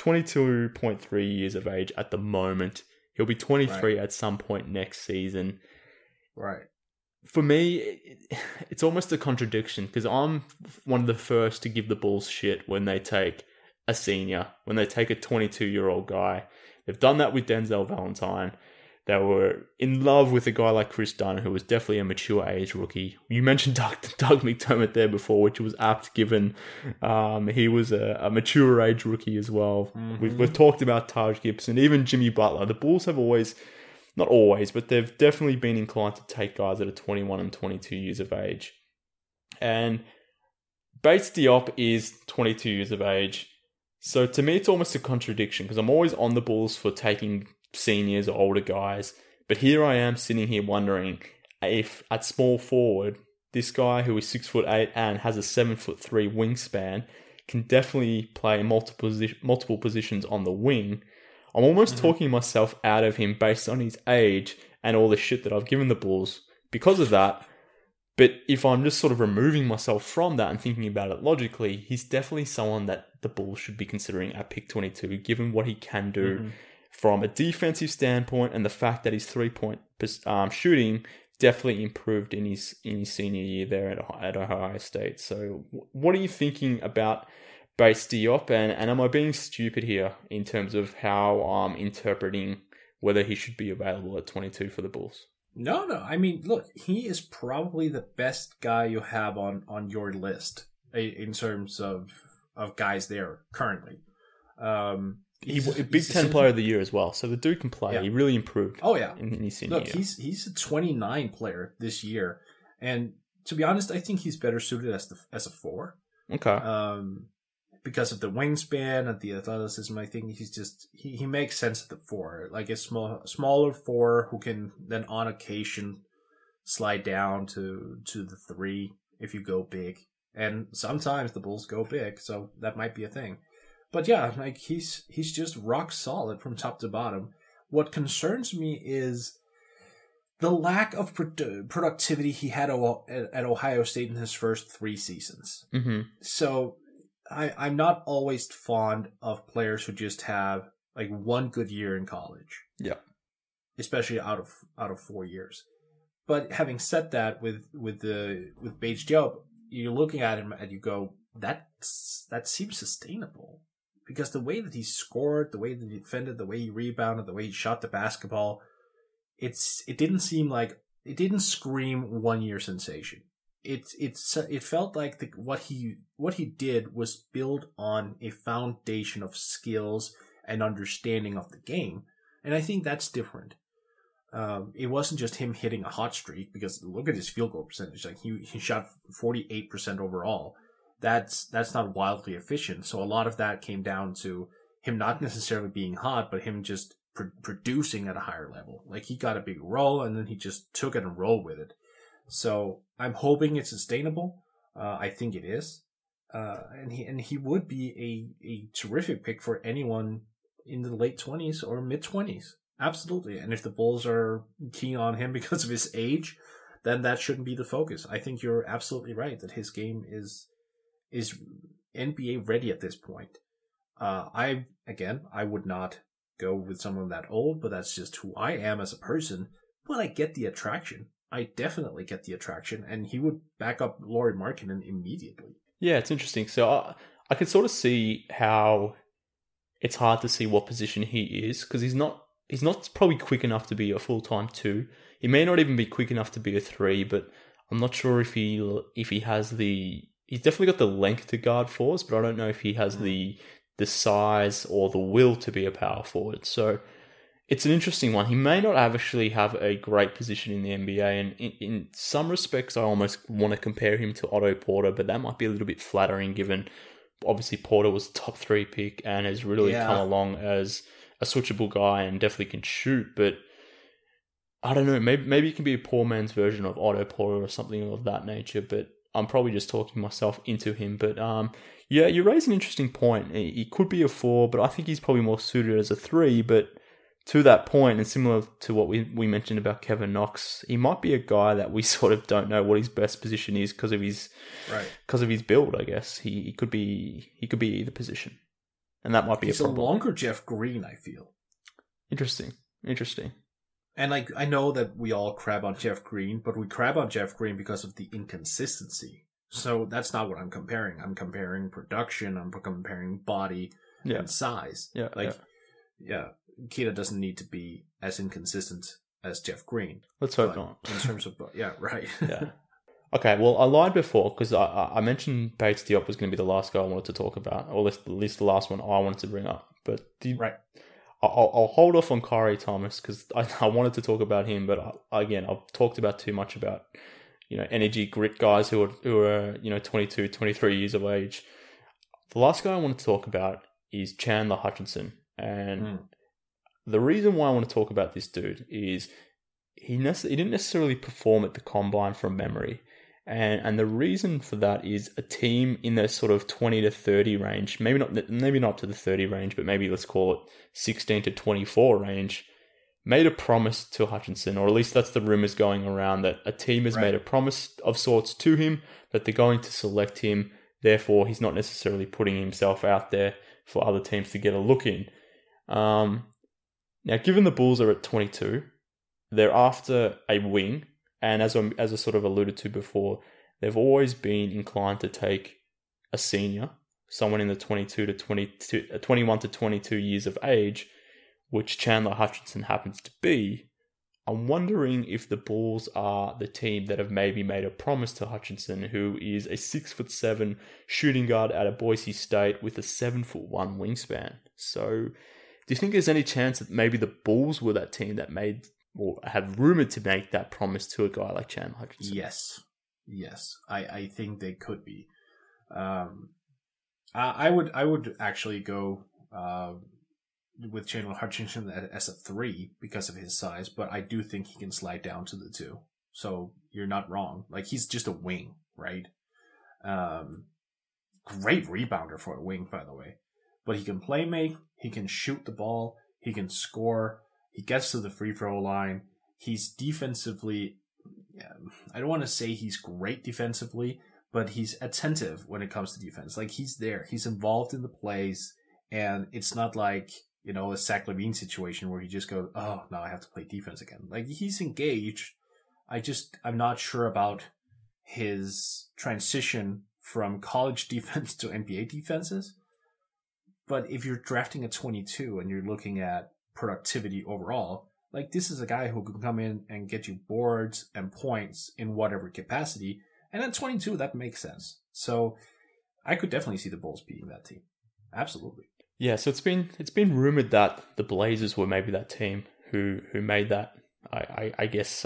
22.3 years of age at the moment. He'll be 23 at some point next season. Right. For me, it's almost a contradiction, because I'm one of the first to give the Bulls shit when they take a senior, when they take a 22-year-old guy. They've done that with Denzel Valentine. They were in love with a guy like Chris Dunn, who was definitely a mature age rookie. You mentioned Doug McDermott there before, which was apt, given he was a mature age rookie as well. Mm-hmm. We've talked about Taj Gibson, even Jimmy Butler. The Bulls have not always, but they've definitely been inclined to take guys that are 21 and 22 years of age. And Bates Diop is 22 years of age. So to me, it's almost a contradiction, because I'm always on the Bulls for taking seniors or older guys. But here I am sitting here wondering if at small forward, this guy who is 6'8" and has a 7'3" wingspan can definitely play multiple positions on the wing. I'm almost talking myself out of him based on his age and all the shit that I've given the Bulls because of that. But if I'm just sort of removing myself from that and thinking about it logically, he's definitely someone that the Bulls should be considering at pick 22, given what he can do from a defensive standpoint, and the fact that his 3-point shooting definitely improved in his senior year there at Ohio State. So what are you thinking about Bates Diop, and am I being stupid here in terms of how I'm interpreting whether he should be available at 22 for the Bulls? No. I mean, look, he is probably the best guy you have on your list in terms of guys there currently. He's Big Ten Player of the Year as well, so the dude can play. Yeah. He really improved. Oh yeah, in his senior year. He's a 29 player this year, and to be honest, I think he's better suited as a 4. Okay. because of the wingspan and the athleticism, I think he's just he makes sense at the 4, like a smaller 4 who can then on occasion slide down to the 3 if you go big. And sometimes the Bulls go big, so that might be a thing. But yeah, like he's just rock solid from top to bottom. What concerns me is the lack of productivity he had at Ohio State in his first 3 seasons. Mm-hmm. So I'm not always fond of players who just have like one good year in college. Yeah. Especially out of 4 years. But having said that, with Bates Diop, you're looking at him and you go, that seems sustainable. Because the way that he scored, the way that he defended, the way he rebounded, the way he shot the basketball, it didn't scream 1 year sensation. It felt like what he did was build on a foundation of skills and understanding of the game, and I think that's different. It wasn't just him hitting a hot streak, because look at his field goal percentage. Like he shot 48% overall. That's not wildly efficient. So a lot of that came down to him not necessarily being hot, but him just producing at a higher level. Like he got a big roll and then he just took it and rolled with it. So I'm hoping it's sustainable. I think it is. And he would be a terrific pick for anyone in the late 20s or mid 20s. Absolutely. And if the Bulls are keen on him because of his age, then that shouldn't be the focus. I think you're absolutely right that his game is NBA ready at this point. I would not go with someone that old, but that's just who I am as a person. But I get the attraction. I definitely get the attraction, and he would back up Lauri Markkanen immediately. Yeah, it's interesting. So I can sort of see how it's hard to see what position he is, because he's not probably quick enough to be a full-time 2. He may not even be quick enough to be a 3, but I'm not sure if he has the... He's definitely got the length to guard 4s, but I don't know if he has the size or the will to be a power forward. So it's an interesting one. He may not actually have a great position in the NBA, and in some respects, I almost want to compare him to Otto Porter, but that might be a little bit flattering given, obviously, Porter was a top 3 pick and has really come along as a switchable guy and definitely can shoot, but I don't know, maybe he can be a poor man's version of Otto Porter or something of that nature, but I'm probably just talking myself into him. But yeah, you raise an interesting point. He could be a 4, but I think he's probably more suited as a 3. But to that point, and similar to what we mentioned about Kevin Knox, he might be a guy that we sort of don't know what his best position is because of his build. I guess he could be either position, and that might be a problem. He's a longer Jeff Green, I feel. Interesting. And like, I know that we all crab on Jeff Green, but we crab on Jeff Green because of the inconsistency. So that's not what I'm comparing. I'm comparing production. I'm comparing body and size. Keita doesn't need to be as inconsistent as Jeff Green. Let's hope not. In terms of, right. Yeah. Okay, well, I lied before because I mentioned Bates Diop was going to be the last guy I wanted to talk about, or at least the last one I wanted to bring up. But right. I'll hold off on Khyri Thomas because I wanted to talk about him, but I've talked about too much about energy grit guys who are 22, 23 years of age. The last guy I want to talk about is Chandler Hutchinson, and the reason why I want to talk about this dude is he didn't necessarily perform at the combine from memory. And the reason for that is a team in the sort of 20 to 30 range, maybe not to the 30 range, but maybe let's call it 16 to 24 range, made a promise to Hutchinson, or at least that's the rumors going around, that a team has made a promise of sorts to him, that they're going to select him. Therefore, he's not necessarily putting himself out there for other teams to get a look in. Now, given the Bulls are at 22, they're after a wing. And as I sort of alluded to before, they've always been inclined to take a senior, someone in the 21 to 22 years of age, which Chandler Hutchinson happens to be. I'm wondering if the Bulls are the team that have maybe made a promise to Hutchinson, who is a 6'7" shooting guard out of Boise State with a 7'1" wingspan. So, do you think there's any chance that maybe the Bulls were that team that made, or have rumored to make, that promise to a guy like Chandler Hutchinson? Yes. I think they could be. I would actually go with Chandler Hutchinson as a 3 because of his size, but I do think he can slide down to the 2. So you're not wrong. Like, he's just a wing, right? Great rebounder for a wing, by the way. But he can play make, he can shoot the ball, he can score, he gets to the free throw line. He's defensively, I don't want to say he's great defensively, but he's attentive when it comes to defense. Like, he's there, he's involved in the plays, and it's not like, you know, a Zach LaVine situation where he just goes, oh, now I have to play defense again. Like, he's engaged. I'm not sure about his transition from college defense to NBA defenses. But if you're drafting at 22 and you're looking at productivity overall, like, this is a guy who can come in and get you boards and points in whatever capacity. And at 22, that makes sense. So I could definitely see the Bulls beating that team. Absolutely. Yeah, so it's been rumored that the Blazers were maybe that team who made that. I guess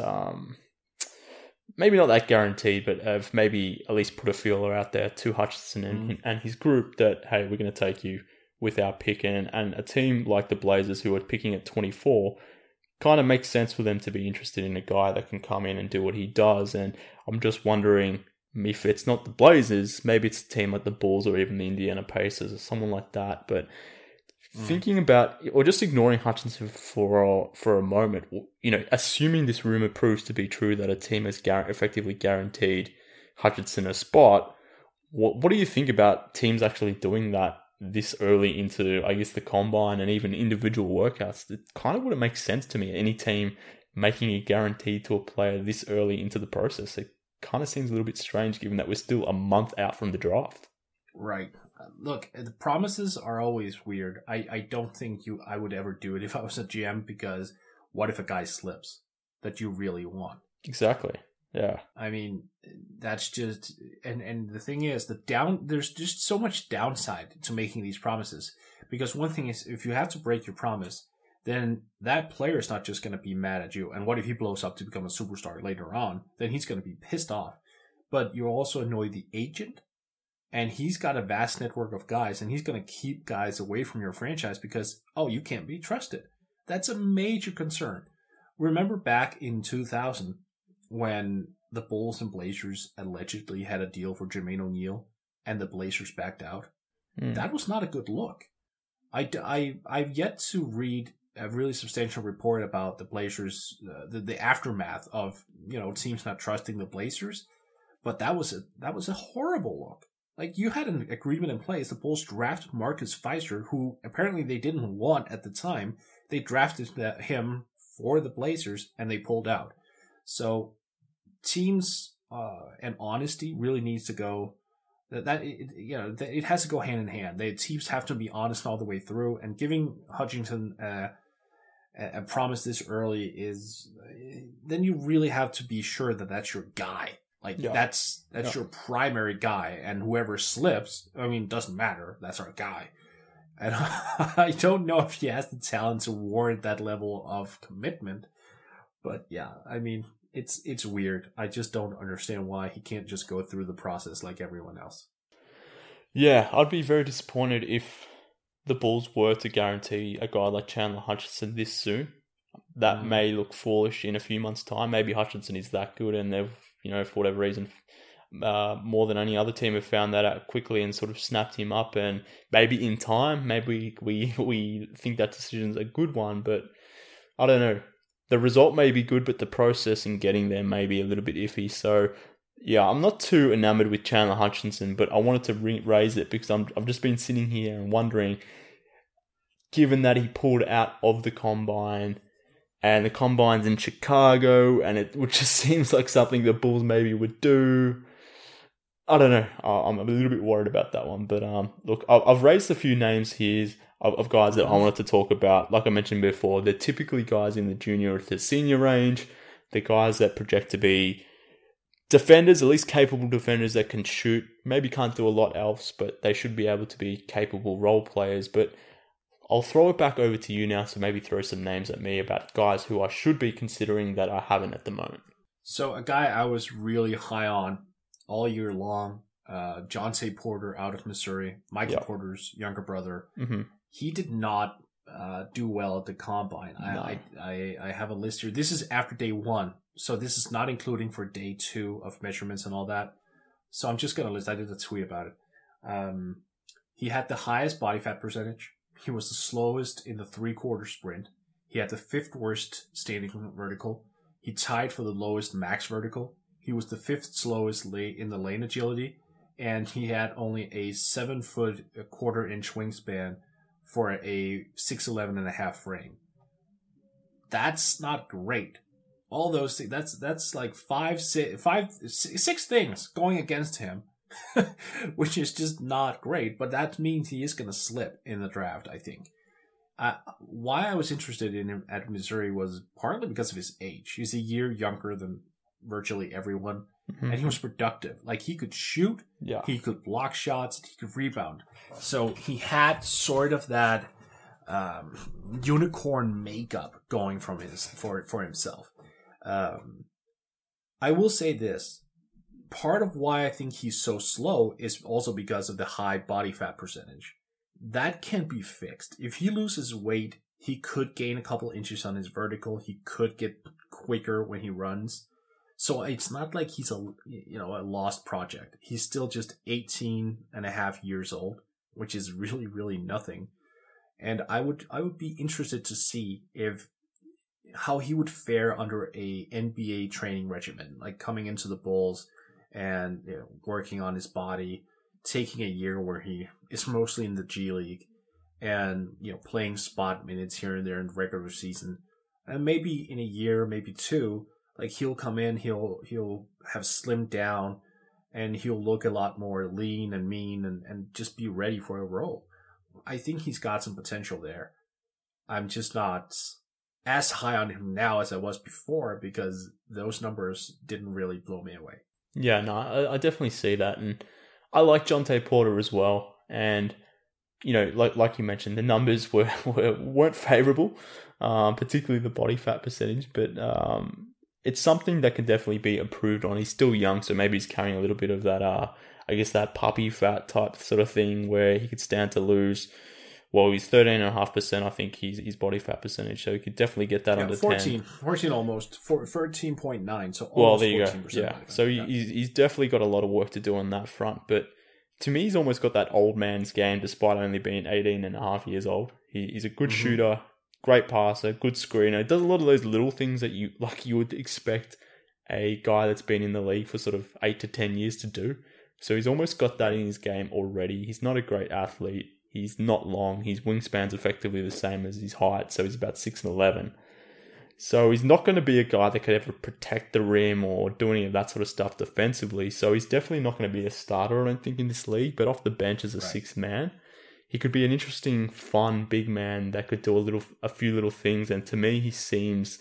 maybe not that guaranteed, but have maybe at least put a feeler out there to Hutchinson and his group that, hey, we're going to take you with our pick. And a team like the Blazers, who are picking at 24, kind of makes sense for them to be interested in a guy that can come in and do what he does. And I'm just wondering if it's not the Blazers, maybe it's a team like the Bulls or even the Indiana Pacers or someone like that. But thinking about, or just ignoring Hutchinson for a moment, you know, assuming this rumor proves to be true that a team has effectively guaranteed Hutchinson a spot, what do you think about teams actually doing that this early into, I guess, the combine and even individual workouts? It kind of wouldn't make sense to me. Any team making a guarantee to a player this early into the process, it kind of seems a little bit strange given that we're still a month out from the draft. Right. Look, the promises are always weird. I don't think I would ever do it if I was a GM, because what if a guy slips that you really want? Exactly. Yeah. I mean, that's just, and the thing is, there's just so much downside to making these promises, because one thing is, if you have to break your promise, then that player is not just going to be mad at you. And what if he blows up to become a superstar later on? Then he's going to be pissed off. But you also annoy the agent, and he's got a vast network of guys, and he's going to keep guys away from your franchise because, oh, you can't be trusted. That's a major concern. Remember back in 2000 when the Bulls and Blazers allegedly had a deal for Jermaine O'Neal and the Blazers backed out? That was not a good look. I've yet to read a really substantial report about the Blazers, the aftermath of, you know, teams not trusting the Blazers, but that was a horrible look. Like, you had an agreement in place. The Bulls drafted Marcus Fizer, who apparently they didn't want at the time. They drafted him for the Blazers, and they pulled out. So teams and honesty really needs to go. It has to go hand in hand. The teams have to be honest all the way through, and giving Hutchinson a promise this early is, then you really have to be sure that that's your guy. Like, that's your primary guy, and whoever slips, I mean, doesn't matter. That's our guy. And I don't know if he has the talent to warrant that level of commitment. But yeah, I mean, it's weird. I just don't understand why he can't just go through the process like everyone else. Yeah, I'd be very disappointed if the Bulls were to guarantee a guy like Chandler Hutchinson this soon. That may look foolish in a few months' time. Maybe Hutchinson is that good, and they've, you know, for whatever reason, more than any other team have found that out quickly and sort of snapped him up. And maybe in time, maybe we think that decision's a good one, but I don't know. The result may be good, but the process in getting there may be a little bit iffy. So, yeah, I'm not too enamored with Chandler Hutchinson, but I wanted to raise it because I've just been sitting here and wondering, given that he pulled out of the combine, and the combine's in Chicago, which just seems like something the Bulls maybe would do. I don't know. I'm a little bit worried about that one. But look, I've raised a few names here of guys that I wanted to talk about. Like I mentioned before, they're typically guys in the junior to senior range. They're guys that project to be defenders, at least capable defenders that can shoot. Maybe can't do a lot else, but they should be able to be capable role players. But I'll throw it back over to you now, so maybe throw some names at me about guys who I should be considering that I haven't at the moment. So a guy I was really high on all year long, Jonte Porter out of Missouri, Michael Porter's younger brother. Mm-hmm. He did not do well at the combine. No. I have a list here. This is after day 1, so this is not including for day 2 of measurements and all that. So I'm just going to list. I did a tweet about it. He had the highest body fat percentage. He was the slowest in the 3/4 sprint. He had the 5th worst standing vertical. He tied for the lowest max vertical. He was the 5th slowest in the lane agility. And he had only a 7-foot, 1/4 inch wingspan for a 6'11.5" frame. That's not great. All those things, that's like 6 things going against him, which is just not great. But that means he is going to slip in the draft, I think. Why I was interested in him at Missouri was partly because of his age. He's a year younger than virtually everyone, and he was productive. Like, he could shoot, he could block shots, he could rebound. So he had sort of that unicorn makeup going for himself. I will say this. Part of why I think he's so slow is also because of the high body fat percentage. That can be fixed. If he loses weight, he could gain a couple inches on his vertical. He could get quicker when he runs. So it's not like he's a lost project. He's still just 18 and a half years old, which is really, really nothing. And I would be interested to see how he would fare under a NBA training regimen, like coming into the Bulls and working on his body, taking a year where he is mostly in the G League and playing spot minutes here and there in the regular season. And maybe in a year, maybe 2, like, he'll come in, he'll have slimmed down, and he'll look a lot more lean and mean and just be ready for a role. I think he's got some potential there. I'm just not as high on him now as I was before because those numbers didn't really blow me away. Yeah, no, I definitely see that. And I like Jonte Porter as well. And, like you mentioned, the numbers weren't favourable, particularly the body fat percentage. But it's something that can definitely be improved on. He's still young, so maybe he's carrying a little bit of that, that puppy fat type sort of thing where he could stand to lose. Well, he's 13.5%, I think, his body fat percentage, so he could definitely get that under 10. 14 almost, 13.9, so almost 14%. Well, there you go, yeah. So he's definitely got a lot of work to do on that front, but to me, he's almost got that old man's game despite only being 18 and a half years old. He's a good shooter, great passer, good screener. Does a lot of those little things that you would expect a guy that's been in the league for sort of 8 to 10 years to do. So he's almost got that in his game already. He's not a great athlete. He's not long. His wingspan's effectively the same as his height, so he's about 6'11". So he's not going to be a guy that could ever protect the rim or do any of that sort of stuff defensively. So he's definitely not going to be a starter, I don't think, in this league. But off the bench as a sixth man, he could be an interesting, fun big man that could do a few little things. And to me, he screams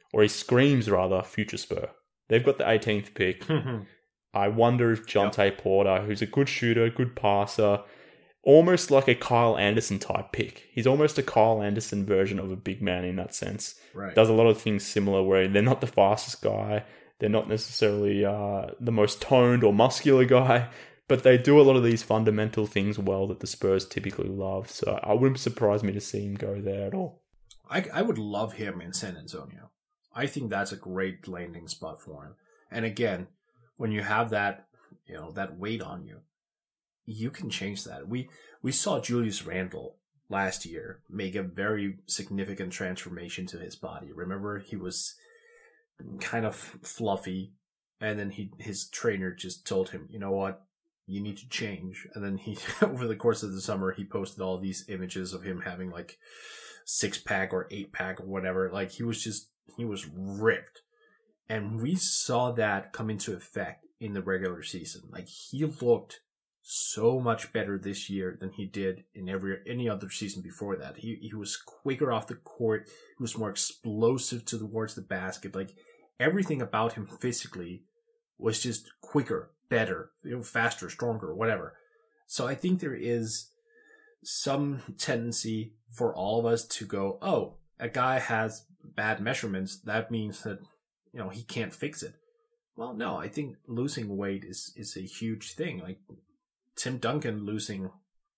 future Spur. They've got the 18th pick. I wonder if Jonte Porter, who's a good shooter, good passer, almost like a Kyle Anderson type pick. He's almost a Kyle Anderson version of a big man in that sense. Right. Does a lot of things similar where they're not the fastest guy. They're not necessarily the most toned or muscular guy, but they do a lot of these fundamental things well that the Spurs typically love. So I wouldn't surprise me to see him go there at all. I would love him in San Antonio. I think that's a great landing spot for him. And again, when you have that, that weight on you, you can change that. We saw Julius Randle last year make a very significant transformation to his body. Remember, he was kind of fluffy, and then his trainer just told him, you know what, you need to change. And then he, over the course of the summer, he posted all these images of him having like 6-pack or 8-pack or whatever. Like, he was ripped. And we saw that come into effect in the regular season. Like, he looked so much better this year than he did in any other season before that. He was quicker off the court. He was more explosive towards the basket. Like, everything about him physically was just quicker, better, faster, stronger, whatever. So I think there is some tendency for all of us to go, oh, a guy has bad measurements. That means that, he can't fix it. Well, no, I think losing weight is a huge thing. Like Tim Duncan losing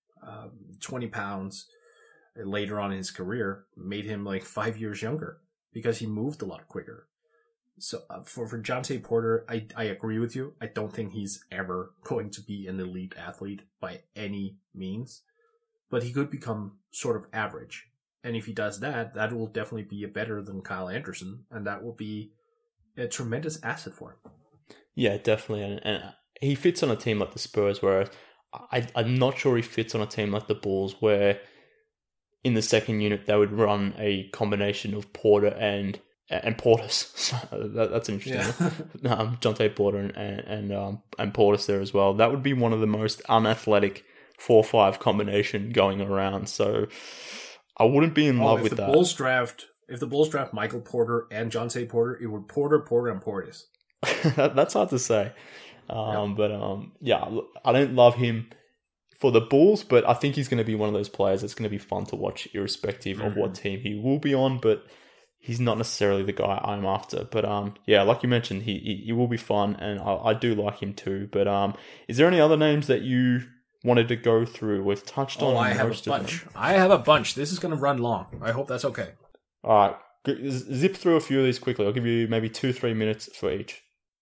20 pounds later on in his career made him like 5 years younger because he moved a lot quicker. So for Jontay Porter, I agree with you. I don't think he's ever going to be an elite athlete by any means, but he could become sort of average. And if he does that, that will definitely be better than Kyle Anderson, and that will be a tremendous asset for him. Yeah, definitely. And he fits on a team like the Spurs, where I'm not sure he fits on a team like the Bulls, where in the second unit they would run a combination of Porter and Portis. So that's interesting. Yeah. Jontay Porter and Portis there as well. That would be one of the most unathletic 4-5 combination going around. So I wouldn't be in love with that. If the Bulls draft Michael Porter and Jontay Porter, it would Porter, and Portis. That's hard to say. But I don't love him for the Bulls, but I think he's going to be one of those players that's going to be fun to watch irrespective of what team he will be on, but he's not necessarily the guy I'm after. But like you mentioned, he will be fun, and I do like him too. But is there any other names that you wanted to go through? We've touched on most of them. I have a bunch. This is going to run long. I hope that's okay. All right. Zip through a few of these quickly. I'll give you maybe 2-3 minutes for each.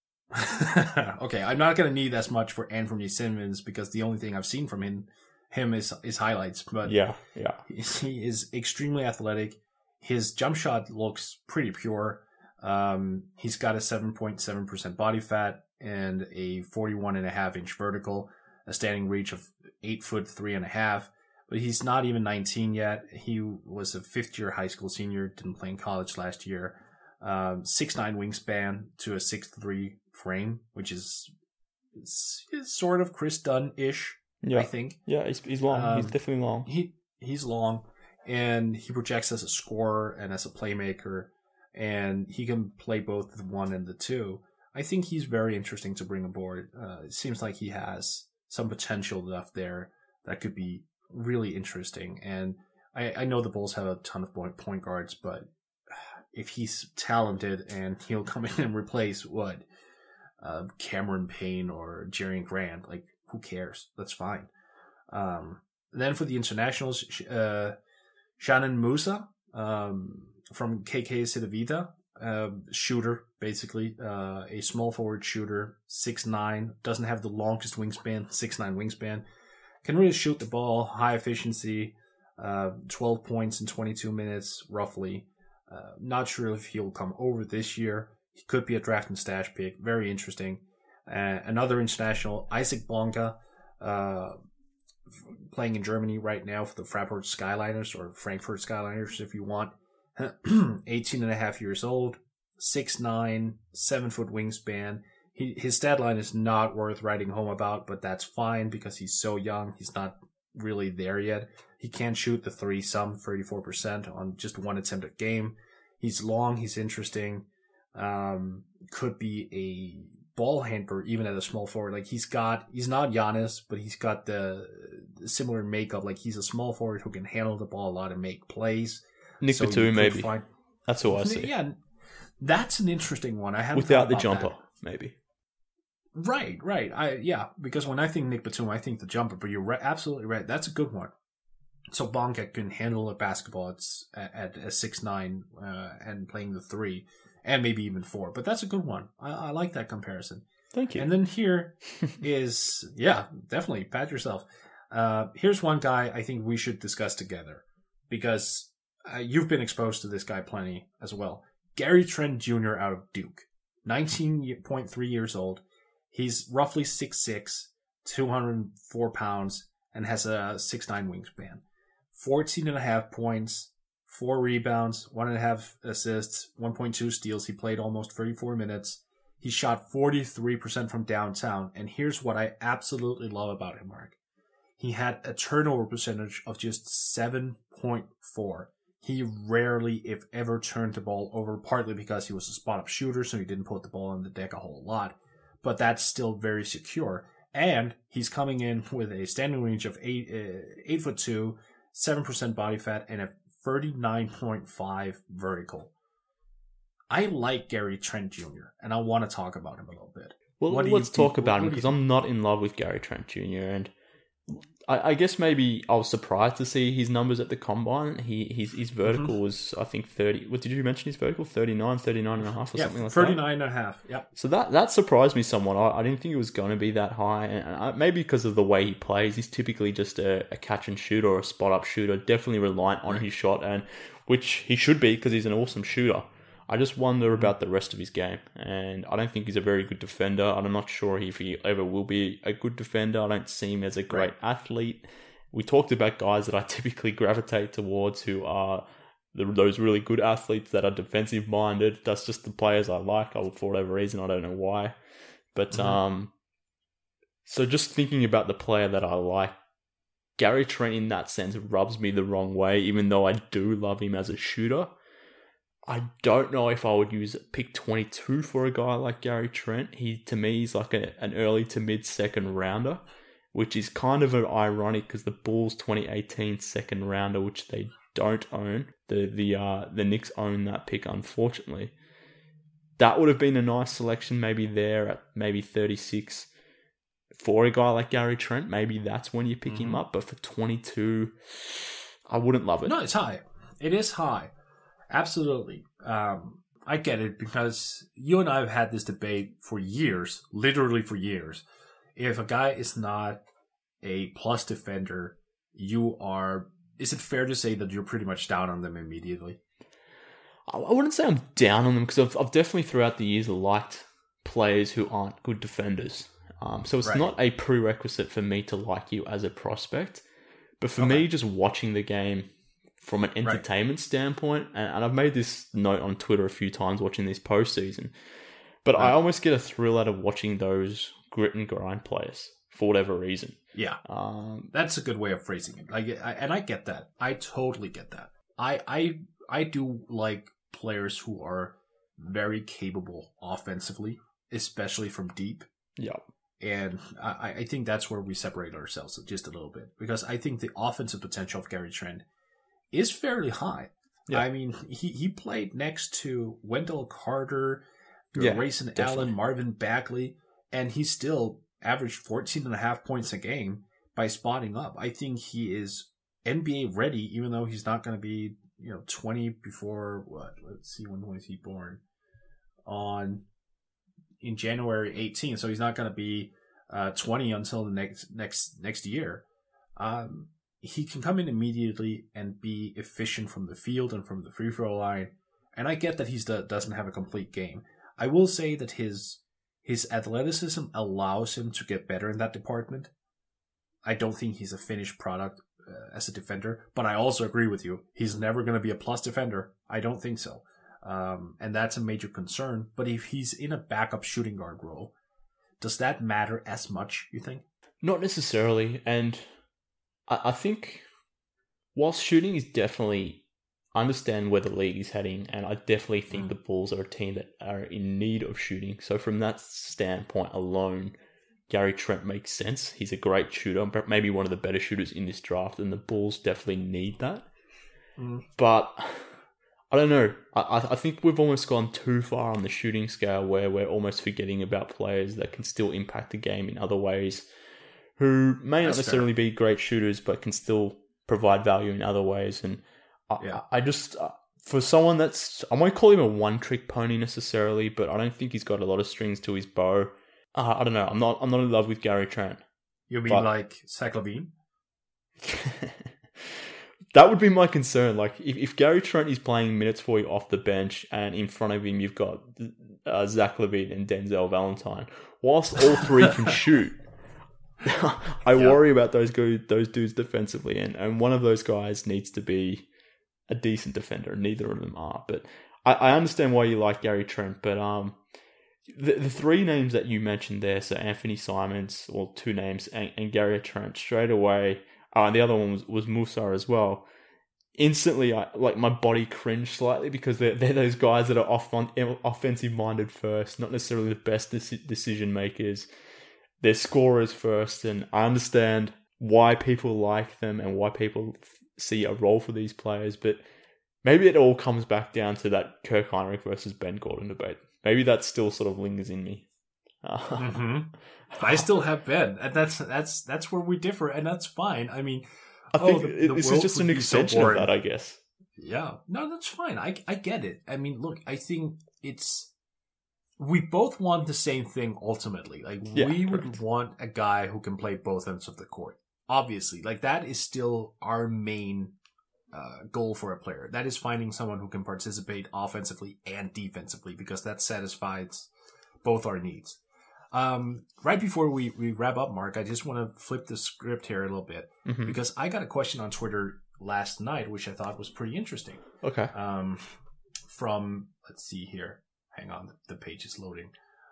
Okay, I'm not going to need as much for Anthony Simmons because the only thing I've seen from him is highlights. But yeah, he is extremely athletic. His jump shot looks pretty pure. He's got a 7.7% body fat and a 41.5-inch vertical, a standing reach of 8'3.5". But he's not even 19 yet. He was a fifth-year high school senior, didn't play in college last year. 6'9" wingspan to a 6'3" frame, which is sort of Chris Dunn-ish, I think. Yeah, he's long. He's definitely long. He's long, and he projects as a scorer and as a playmaker, and he can play both the 1 and the 2. I think he's very interesting to bring aboard. It seems like he has some potential left there that could be really interesting. And I know the Bulls have a ton of point guards, but if he's talented and he'll come in and replace Cameron Payne or Jerian Grant, like who cares? That's fine. Then for the internationals, Shannon Musa from KK Cedevita, shooter basically, a small forward shooter, 6'9", doesn't have the longest wingspan, 6'9" wingspan, can really shoot the ball, high efficiency, 12 points in 22 minutes roughly. Not sure if he'll come over this year. He could be a draft and stash pick. Very interesting. Another international, Isaac Bonga, playing in Germany right now for the Frankfurt Skyliners, or Frankfurt Skyliners if you want. 18.5 years old, 6'9", 7-foot wingspan. His stat line is not worth writing home about, but that's fine because he's so young. He's not really there yet. He can shoot the 3 some 34% on just one attempt a game. He's long. He's interesting. Could be a ball handler even at a small forward. Like he's not Giannis, but he's got the similar makeup. Like he's a small forward who can handle the ball a lot and make plays. Nick Batum, maybe. That's who I see. Yeah, that's an interesting one. I haven't without the jumper, maybe. Right. Because when I think Nick Batum, I think the jumper. But you're absolutely right. That's a good one. So Bonga can handle a basketball at a 6'9", and playing the 3, and maybe even 4. But that's a good one. I like that comparison. Thank you. And then here is, definitely, pat yourself. Here's one guy I think we should discuss together because you've been exposed to this guy plenty as well. Gary Trent Jr. out of Duke, 19.3 years old. He's roughly 6'6", 204 pounds, and has a 6'9" wingspan. 14.5 points, 4 rebounds, 1.5 assists, 1.2 steals. He played almost 34 minutes. He shot 43% from downtown. And here's what I absolutely love about him, Mark. He had a turnover percentage of just 7.4. He rarely, if ever, turned the ball over, partly because he was a spot-up shooter, so he didn't put the ball on the deck a whole lot. But that's still very secure. And he's coming in with a standing range of 8'2", 7% body fat, and a 39.5 vertical. I like Gary Trent Jr., and I want to talk about him a little bit. Well, let's talk about him, because I'm not in love with Gary Trent Jr., and I guess maybe I was surprised to see his numbers at the combine. His vertical was, I think, 30. What did you mention his vertical? 39 and a half or something like 39 and a half. Yeah. So that surprised me somewhat. I didn't think it was going to be that high. And maybe because of the way he plays. He's typically just a catch and shoot or a spot up shooter, definitely reliant on his shot, and which he should be because he's an awesome shooter. I just wonder about the rest of his game, and I don't think he's a very good defender. I'm not sure if he ever will be a good defender. I don't see him as a great athlete. We talked about guys that I typically gravitate towards who are those really good athletes that are defensive-minded. That's just the players I like, for whatever reason. I don't know why. But so just thinking about the player that I like, Gary Trent in that sense rubs me the wrong way, even though I do love him as a shooter. I don't know if I would use pick 22 for a guy like Gary Trent. To me, he's like an early to mid second rounder, which is kind of ironic because the Bulls 2018 second rounder, which they don't own, the Knicks own that pick, unfortunately. That would have been a nice selection, maybe there at maybe 36 for a guy like Gary Trent. Maybe that's when you pick him up, but for 22, I wouldn't love it. No, it's high. It is high. Absolutely. I get it, because you and I have had this debate for years, literally for years. If a guy is not a plus defender, is it fair to say that you're pretty much down on them immediately? I wouldn't say I'm down on them, because I've definitely throughout the years liked players who aren't good defenders. So it's not a prerequisite for me to like you as a prospect. But for me, just watching the game from an entertainment standpoint, and I've made this note on Twitter a few times watching this postseason, but I almost get a thrill out of watching those grit and grind players for whatever reason. Yeah, that's a good way of phrasing it. I get that. I totally get that. I do like players who are very capable offensively, especially from deep. Yeah. And I think that's where we separate ourselves just a little bit, because I think the offensive potential of Gary Trent is fairly high. Yeah. I mean, he played next to Wendell Carter, Grayson Allen, Marvin Bagley, and he still averaged 14.5 points a game by spotting up. I think he is NBA ready, even though he's not going to be 20 before what? Let's see, when was he born? In January 18th, so he's not going to be 20 until the next year. He can come in immediately and be efficient from the field and from the free throw line. And I get that he doesn't have a complete game. I will say that his athleticism allows him to get better in that department. I don't think he's a finished product as a defender, but I also agree with you. He's never going to be a plus defender. I don't think so. And that's a major concern. But if he's in a backup shooting guard role, does that matter as much, you think? Not necessarily. And I think whilst shooting is definitely, I understand where the league is heading, and I definitely think the Bulls are a team that are in need of shooting. So from that standpoint alone, Gary Trent makes sense. He's a great shooter, maybe one of the better shooters in this draft, and the Bulls definitely need that. But I don't know. I think we've almost gone too far on the shooting scale where we're almost forgetting about players that can still impact the game in other ways, who may not necessarily be great shooters, but can still provide value in other ways. And I just, for someone I won't call him a one-trick pony necessarily, but I don't think he's got a lot of strings to his bow. I don't know. I'm not in love with Gary Trent. You mean like Zach LaVine? That would be my concern. Like, if Gary Trent is playing minutes for you off the bench, and in front of him you've got Zach LaVine and Denzel Valentine, whilst all three can shoot, I worry about those dudes defensively, and one of those guys needs to be a decent defender. Neither of them are. But I understand why you like Gary Trent, but the three names that you mentioned there, so Anthony Simons, or two names, and Gary Trent, straight away. The other one was Musa as well. Instantly, my body cringed slightly, because they're those guys that are offensive minded first, not necessarily the best decision makers. They're scorers first, and I understand why people like them and why people see a role for these players. But maybe it all comes back down to that Kirk Hinrich versus Ben Gordon debate. Maybe that still sort of lingers in me. I still have Ben, and that's where we differ, and that's fine. I mean, I think this is just an extension of that, I guess. Yeah, no, that's fine. I get it. I mean, look, I think we both want the same thing ultimately. Like, we would want a guy who can play both ends of the court. Obviously, like, that is still our main goal for a player. That is finding someone who can participate offensively and defensively, because that satisfies both our needs. Right before we wrap up, Mark, I just want to flip the script here a little bit, because I got a question on Twitter last night, which I thought was pretty interesting. Okay. From, let's see here. Hang on, the page is loading.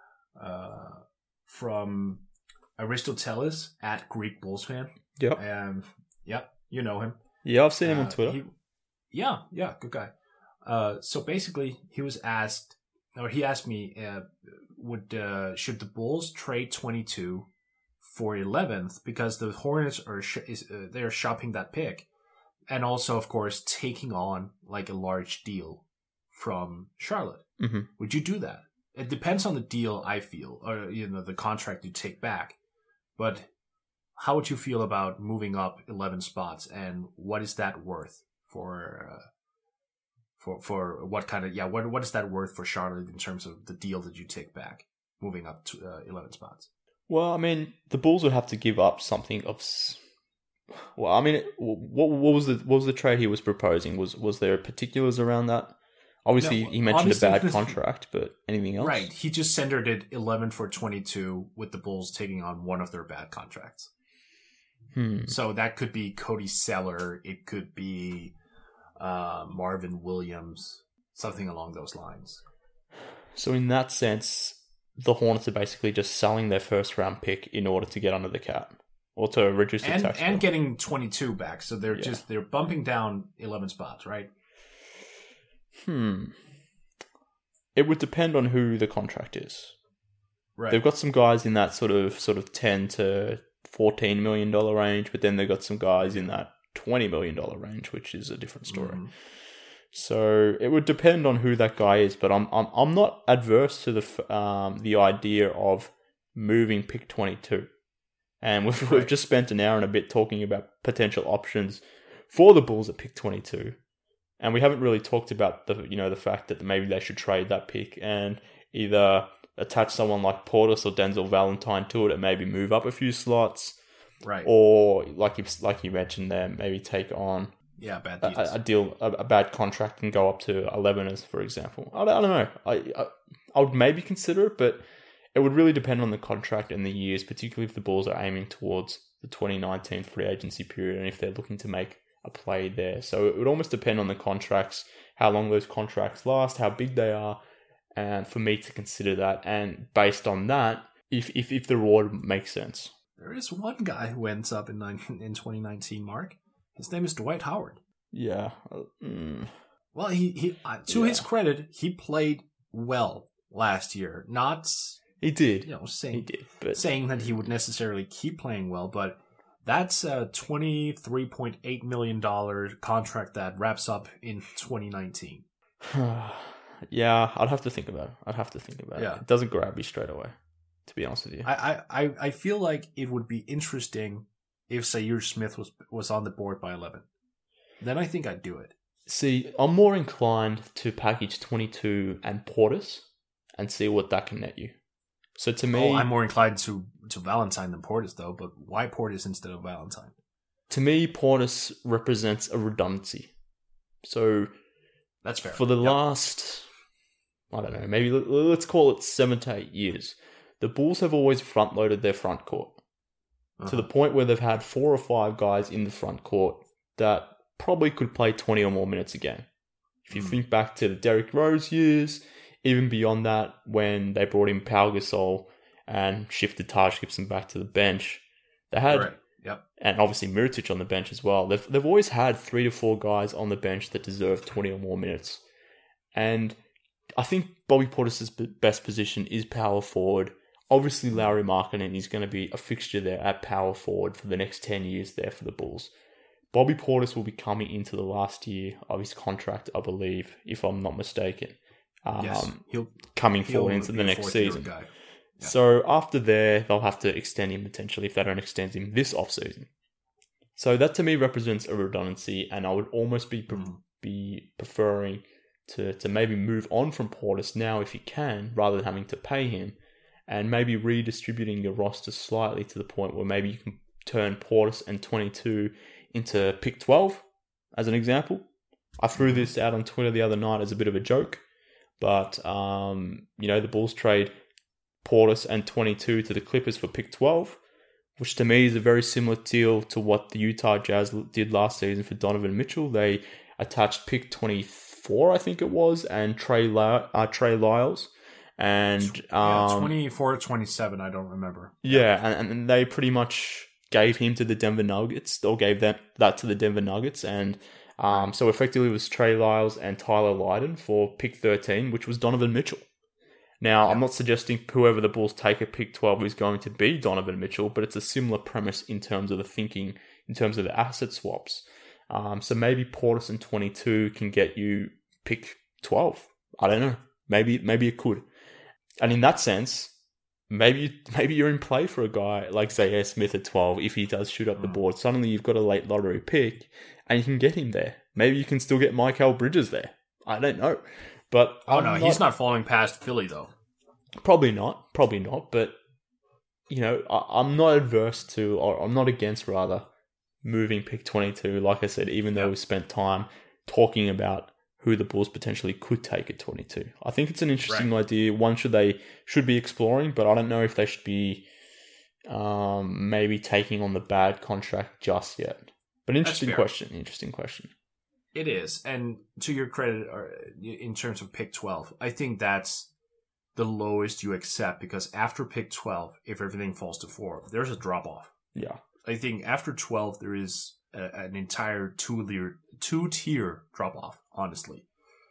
From Aristoteles at Greek Bulls fan. Yep. Yep, you know him. Yeah, I've seen him on Twitter. Yeah, good guy. So basically, he asked me, should the Bulls trade 22 for 11th, because the Hornets they're shopping that pick, and also, of course, taking on like a large deal from Charlotte. Mm-hmm. Would you do that? It depends on the deal, I feel, or the contract you take back. But how would you feel about moving up 11 spots, and what is that worth for what kind of what is that worth for Charlotte in terms of the deal that you take back, moving up to 11 spots? Well, I mean, the Bulls would have to give up something of. Well, I mean, what was the trade he was proposing? Was there particulars around that? Obviously, he mentioned a bad contract, but anything else? Right, he just centered it 11 for 22 with the Bulls taking on one of their bad contracts. So that could be Cody Zeller, it could be Marvin Williams, something along those lines. So in that sense, the Hornets are basically just selling their first round pick in order to get under the cap, or to reduce the tax bill. And getting 22 back. So they're bumping down 11 spots, right? It would depend on who the contract is. Right. They've got some guys in that sort of $10 to $14 million range, but then they've got some guys in that $20 million range, which is a different story. So it would depend on who that guy is, but I'm not adverse to the idea of moving pick 22. And we've just spent an hour and a bit talking about potential options for the Bulls at pick 22. And we haven't really talked about the fact that maybe they should trade that pick and either attach someone like Portis or Denzel Valentine to it and maybe move up a few slots. Right. Or like you mentioned there, maybe take on bad deals. a bad contract and go up to 11 as, for example. I don't know. I would maybe consider it, but it would really depend on the contract and the years, particularly if the Bulls are aiming towards the 2019 free agency period and if they're looking to make a play there. So it would almost depend on the contracts, how long those contracts last, how big they are, and for me to consider that. And based on that, if the reward makes sense. There is one guy who ends up in 2019, Mark. His name is Dwight Howard. Yeah. Well, he to his credit, he played well last year. He did. Saying that he would necessarily keep playing well, but that's a $23.8 million contract that wraps up in 2019. Yeah, I'd have to think about it. It doesn't grab me straight away, to be honest with you. I feel like it would be interesting if Zaire Smith was on the board by 11. Then I think I'd do it. See, I'm more inclined to package 22 and Portis and see what that can net you. So to me... I'm more inclined to Valentine than Portis, though. But why Portis instead of Valentine? To me, Portis represents a redundancy. So... That's fair. For the last... I don't know, maybe let's call it 7 to 8 years. The Bulls have always front-loaded their front court. To the point where they've had 4 or 5 guys in the front court that probably could play 20 or more minutes a game. If you think back to the Derrick Rose years... Even beyond that, when they brought in Pau Gasol and shifted Taj Gibson back to the bench, they had, and obviously Mirotic on the bench as well. They've always had 3 to 4 guys on the bench that deserve 20 or more minutes. And I think Bobby Portis' best position is power forward. Obviously, Lauri Markkanen is going to be a fixture there at power forward for the next 10 years there for the Bulls. Bobby Portis will be coming into the last year of his contract, I believe, if I'm not mistaken. Yes, coming forward into the next season. Yeah. So after there, they'll have to extend him potentially if they don't extend him this offseason. So that to me represents a redundancy, and I would almost be preferring to maybe move on from Portis now if you can, rather than having to pay him, and maybe redistributing your roster slightly to the point where maybe you can turn Portis and 22 into pick 12, as an example. I threw this out on Twitter the other night as a bit of a joke, but the Bulls trade Portis and 22 to the Clippers for pick 12, which to me is a very similar deal to what the Utah Jazz did last season for Donovan Mitchell. They attached pick 24, I think it was, and Trey Lyles. And 24 to 27, I don't remember. Yeah, and they pretty much gave him to the Denver Nuggets, or gave that to the Denver Nuggets. And so effectively it was Trey Lyles and Tyler Lydon for pick 13, which was Donovan Mitchell. Now, I'm not suggesting whoever the Bulls take at pick 12 is going to be Donovan Mitchell, but it's a similar premise in terms of the thinking, in terms of the asset swaps. So maybe Portis and 22 can get you pick 12. I don't know. Maybe it could. And in that sense, maybe you're in play for a guy like Zaire Smith at 12 if he does shoot up the board. Suddenly you've got a late lottery pick and you can get him there. Maybe you can still get Mikal Bridges there. I don't know. But he's not falling past Philly though. Probably not. But I'm not adverse to, or I'm not against rather, moving pick 22. Like I said, even though we spent time talking about who the Bulls potentially could take at 22, I think it's an interesting idea. One they should be exploring, but I don't know if they should be maybe taking on the bad contract just yet. But interesting question. It is, and to your credit, in terms of pick 12, I think that's the lowest you accept, because after pick 12, if everything falls to 4, there's a drop off. Yeah, I think after 12 there is an entire two-tier drop off. Honestly,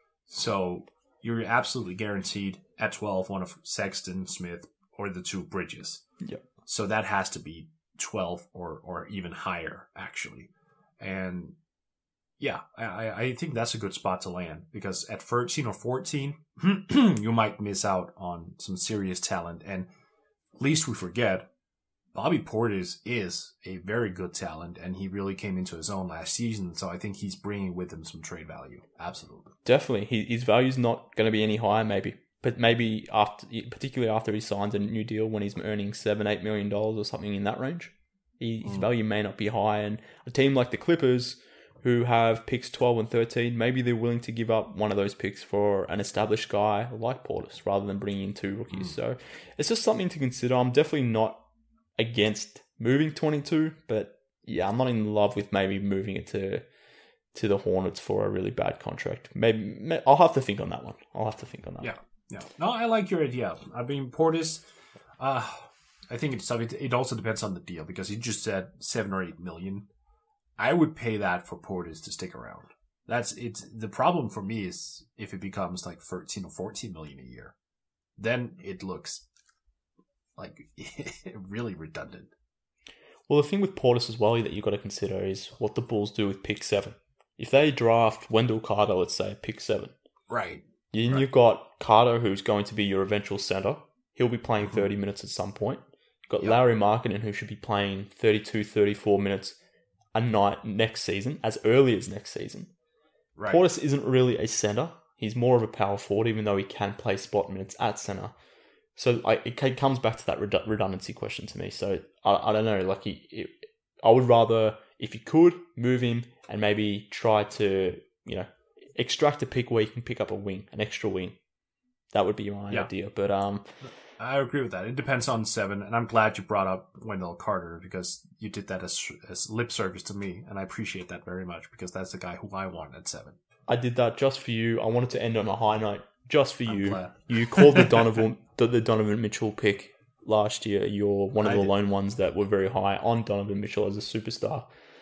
so you're absolutely guaranteed at 12 one of Sexton, Smith, or the 2 Bridges. Yeah. So that has to be 12 or even higher actually, and. Yeah, I think that's a good spot to land, because at 13 or 14, you might miss out on some serious talent. And least we forget, Bobby Portis is a very good talent, and he really came into his own last season. So I think he's bringing with him some trade value. Absolutely. Definitely. His value's not going to be any higher, maybe. But maybe particularly after he signs a new deal when he's earning $7-8 million or something in that range, his value may not be high. And a team like the Clippers, who have picks 12 and 13, maybe they're willing to give up one of those picks for an established guy like Portis rather than bringing in 2 rookies. So it's just something to consider. I'm definitely not against moving 22, but yeah, I'm not in love with maybe moving it to the Hornets for a really bad contract. Maybe I'll have to think on that one. Yeah. No, I like your idea. I mean, Portis, I think it also depends on the deal, because he just said 7 or 8 million. I would pay that for Portis to stick around. The problem for me is if it becomes like 13 or 14 million a year, then it looks like really redundant. Well, the thing with Portis as well that you've got to consider is what the Bulls do with pick 7. If they draft Wendell Carter, let's say, pick 7. Right. Then you've got Carter, who's going to be your eventual center. He'll be playing 30 minutes at some point. You've got Lauri Markkanen, who should be playing 32, 34 minutes a night next season, as early as next season. Right. Portis isn't really a center. He's more of a power forward, even though he can play spot minutes at center. So it comes back to that redundancy question to me. So I don't know. Like I would rather, if you could, move him and maybe try to extract a pick where you can pick up an extra wing. That would be my idea. But I agree with that. It depends on 7, and I'm glad you brought up Wendell Carter, because you did that as lip service to me, and I appreciate that very much, because that's the guy who I want at 7. I did that just for you. I wanted to end on a high note just for you. Glad. You called the Donovan Mitchell pick last year. You're one of the lone ones that were very high on Donovan Mitchell as a superstar.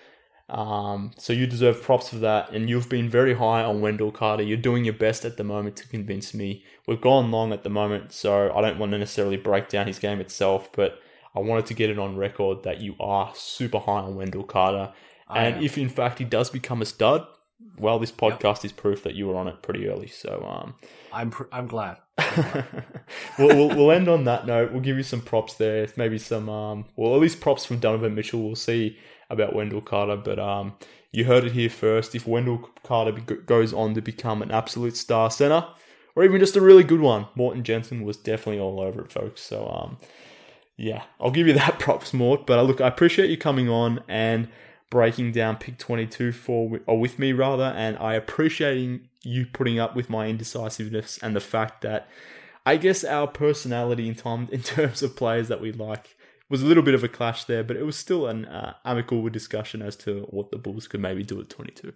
So you deserve props for that, and you've been very high on Wendell Carter. You're doing your best at the moment to convince me. We've gone long at the moment, so I don't want to necessarily break down his game itself, but I wanted to get it on record that you are super high on Wendell Carter, And if in fact he does become a stud, well, this podcast is proof that you were on it pretty early. So I'm glad. we'll end on that note. We'll give you some props there, maybe some well, at least props from Donovan Mitchell. We'll see about Wendell Carter, but you heard it here first. If Wendell Carter goes on to become an absolute star center, or even just a really good one, Morton Jensen was definitely all over it, folks. So yeah, I'll give you that props, Mort. But look, I appreciate you coming on and breaking down pick 22 with me, and I appreciating you putting up with my indecisiveness and the fact that I guess our personality in terms of players that we like was a little bit of a clash there, but it was still an amicable discussion as to what the Bulls could maybe do at 22.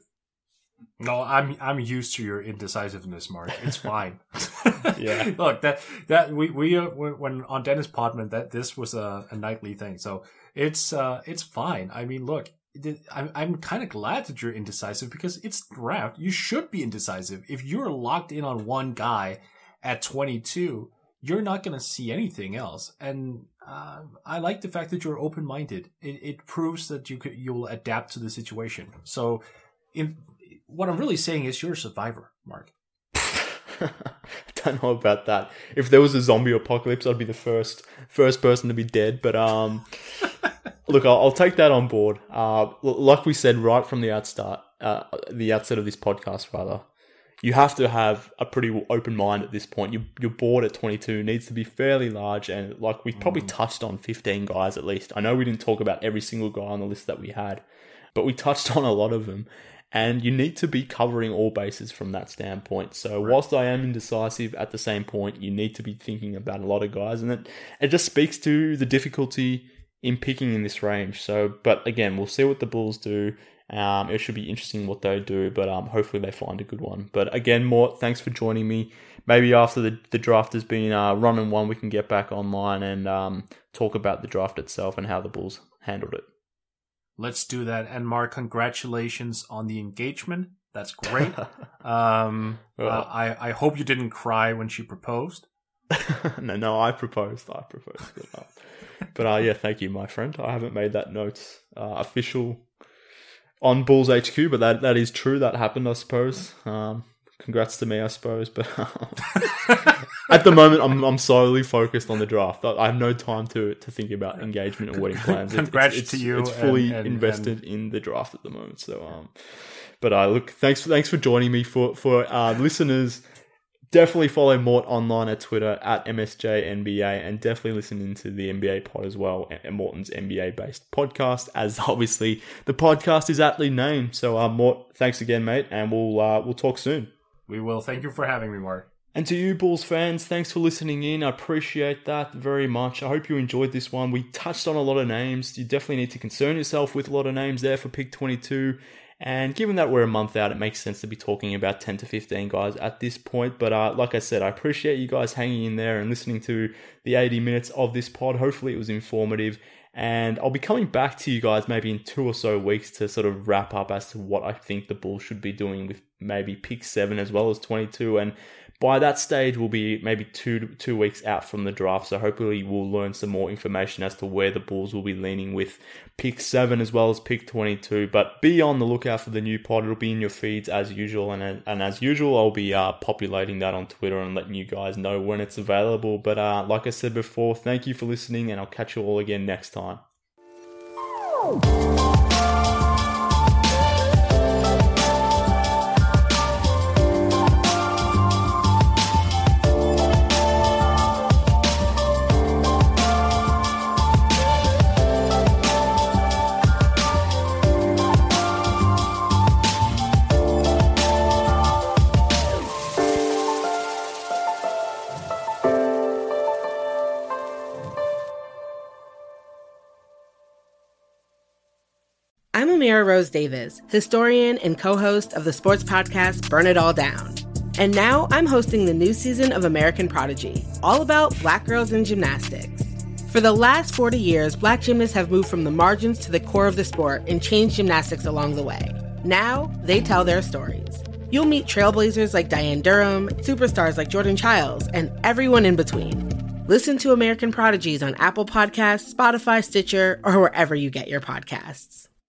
No, I'm used to your indecisiveness, Mark. It's fine. Yeah. Look, that we when on Dennis Podman, that this was a nightly thing, so it's fine. I mean, look, I'm kind of glad that you're indecisive because it's draft. You should be indecisive. If you're locked in on one guy at 22, you're not going to see anything else. And I like the fact that you're open-minded. It proves that you'll adapt to the situation. So, what I'm really saying is you're a survivor, Mark. I don't know about that. If there was a zombie apocalypse, I'd be the first person to be dead. But look, I'll take that on board. Like we said right from the outset of this podcast, rather, you have to have a pretty open mind at this point. Your board at 22 needs to be fairly large, and like we probably touched on 15 guys at least. I know we didn't talk about every single guy on the list that we had, but we touched on a lot of them. And you need to be covering all bases from that standpoint. So whilst I am indecisive, at the same point, you need to be thinking about a lot of guys. And it just speaks to the difficulty in picking in this range. So, but again, we'll see what the Bulls do. It should be interesting what they do, but hopefully they find a good one. But again, Mort, thanks for joining me. Maybe after the draft has been run and won, we can get back online and talk about the draft itself and how the Bulls handled it. Let's do that. And Mark, congratulations on the engagement. That's great. I hope you didn't cry when she proposed. No, I proposed. But yeah, thank you, my friend. I haven't made that note official on Bulls HQ, but that is true. That happened, I suppose. Congrats to me, I suppose. But at the moment, I'm solely focused on the draft. I have no time to think about engagement and wedding plans. Congrats to you. It's fully invested in the draft at the moment. So, but look, thanks for joining me. For listeners, definitely follow Mort online at Twitter at MSJNBA, and definitely listen into the NBA pod as well, and Morton's NBA-based podcast, as obviously the podcast is aptly named. So, Mort, thanks again, mate, and we'll talk soon. We will. Thank you for having me, Mark. And to you, Bulls fans, thanks for listening in. I appreciate that very much. I hope you enjoyed this one. We touched on a lot of names. You definitely need to concern yourself with a lot of names there for pick 22. And given that we're a month out, it makes sense to be talking about 10 to 15 guys at this point. But like I said, I appreciate you guys hanging in there and listening to the 80 minutes of this pod. Hopefully it was informative. And I'll be coming back to you guys maybe in 2 or so weeks to sort of wrap up as to what I think the Bulls should be doing with maybe pick 7 as well as 22. And by that stage, we'll be maybe two weeks out from the draft. So hopefully we'll learn some more information as to where the Bulls will be leaning with pick 7 as well as pick 22. But be on the lookout for the new pod. It'll be in your feeds as usual. And as usual, I'll be populating that on Twitter and letting you guys know when it's available. But like I said before, thank you for listening, and I'll catch you all again next time. I'm Amira Rose Davis, historian and co-host of the sports podcast Burn It All Down. And now I'm hosting the new season of American Prodigy, all about Black girls in gymnastics. For the last 40 years, Black gymnasts have moved from the margins to the core of the sport and changed gymnastics along the way. Now, they tell their stories. You'll meet trailblazers like Diane Durham, superstars like Jordan Childs, and everyone in between. Listen to American Prodigies on Apple Podcasts, Spotify, Stitcher, or wherever you get your podcasts.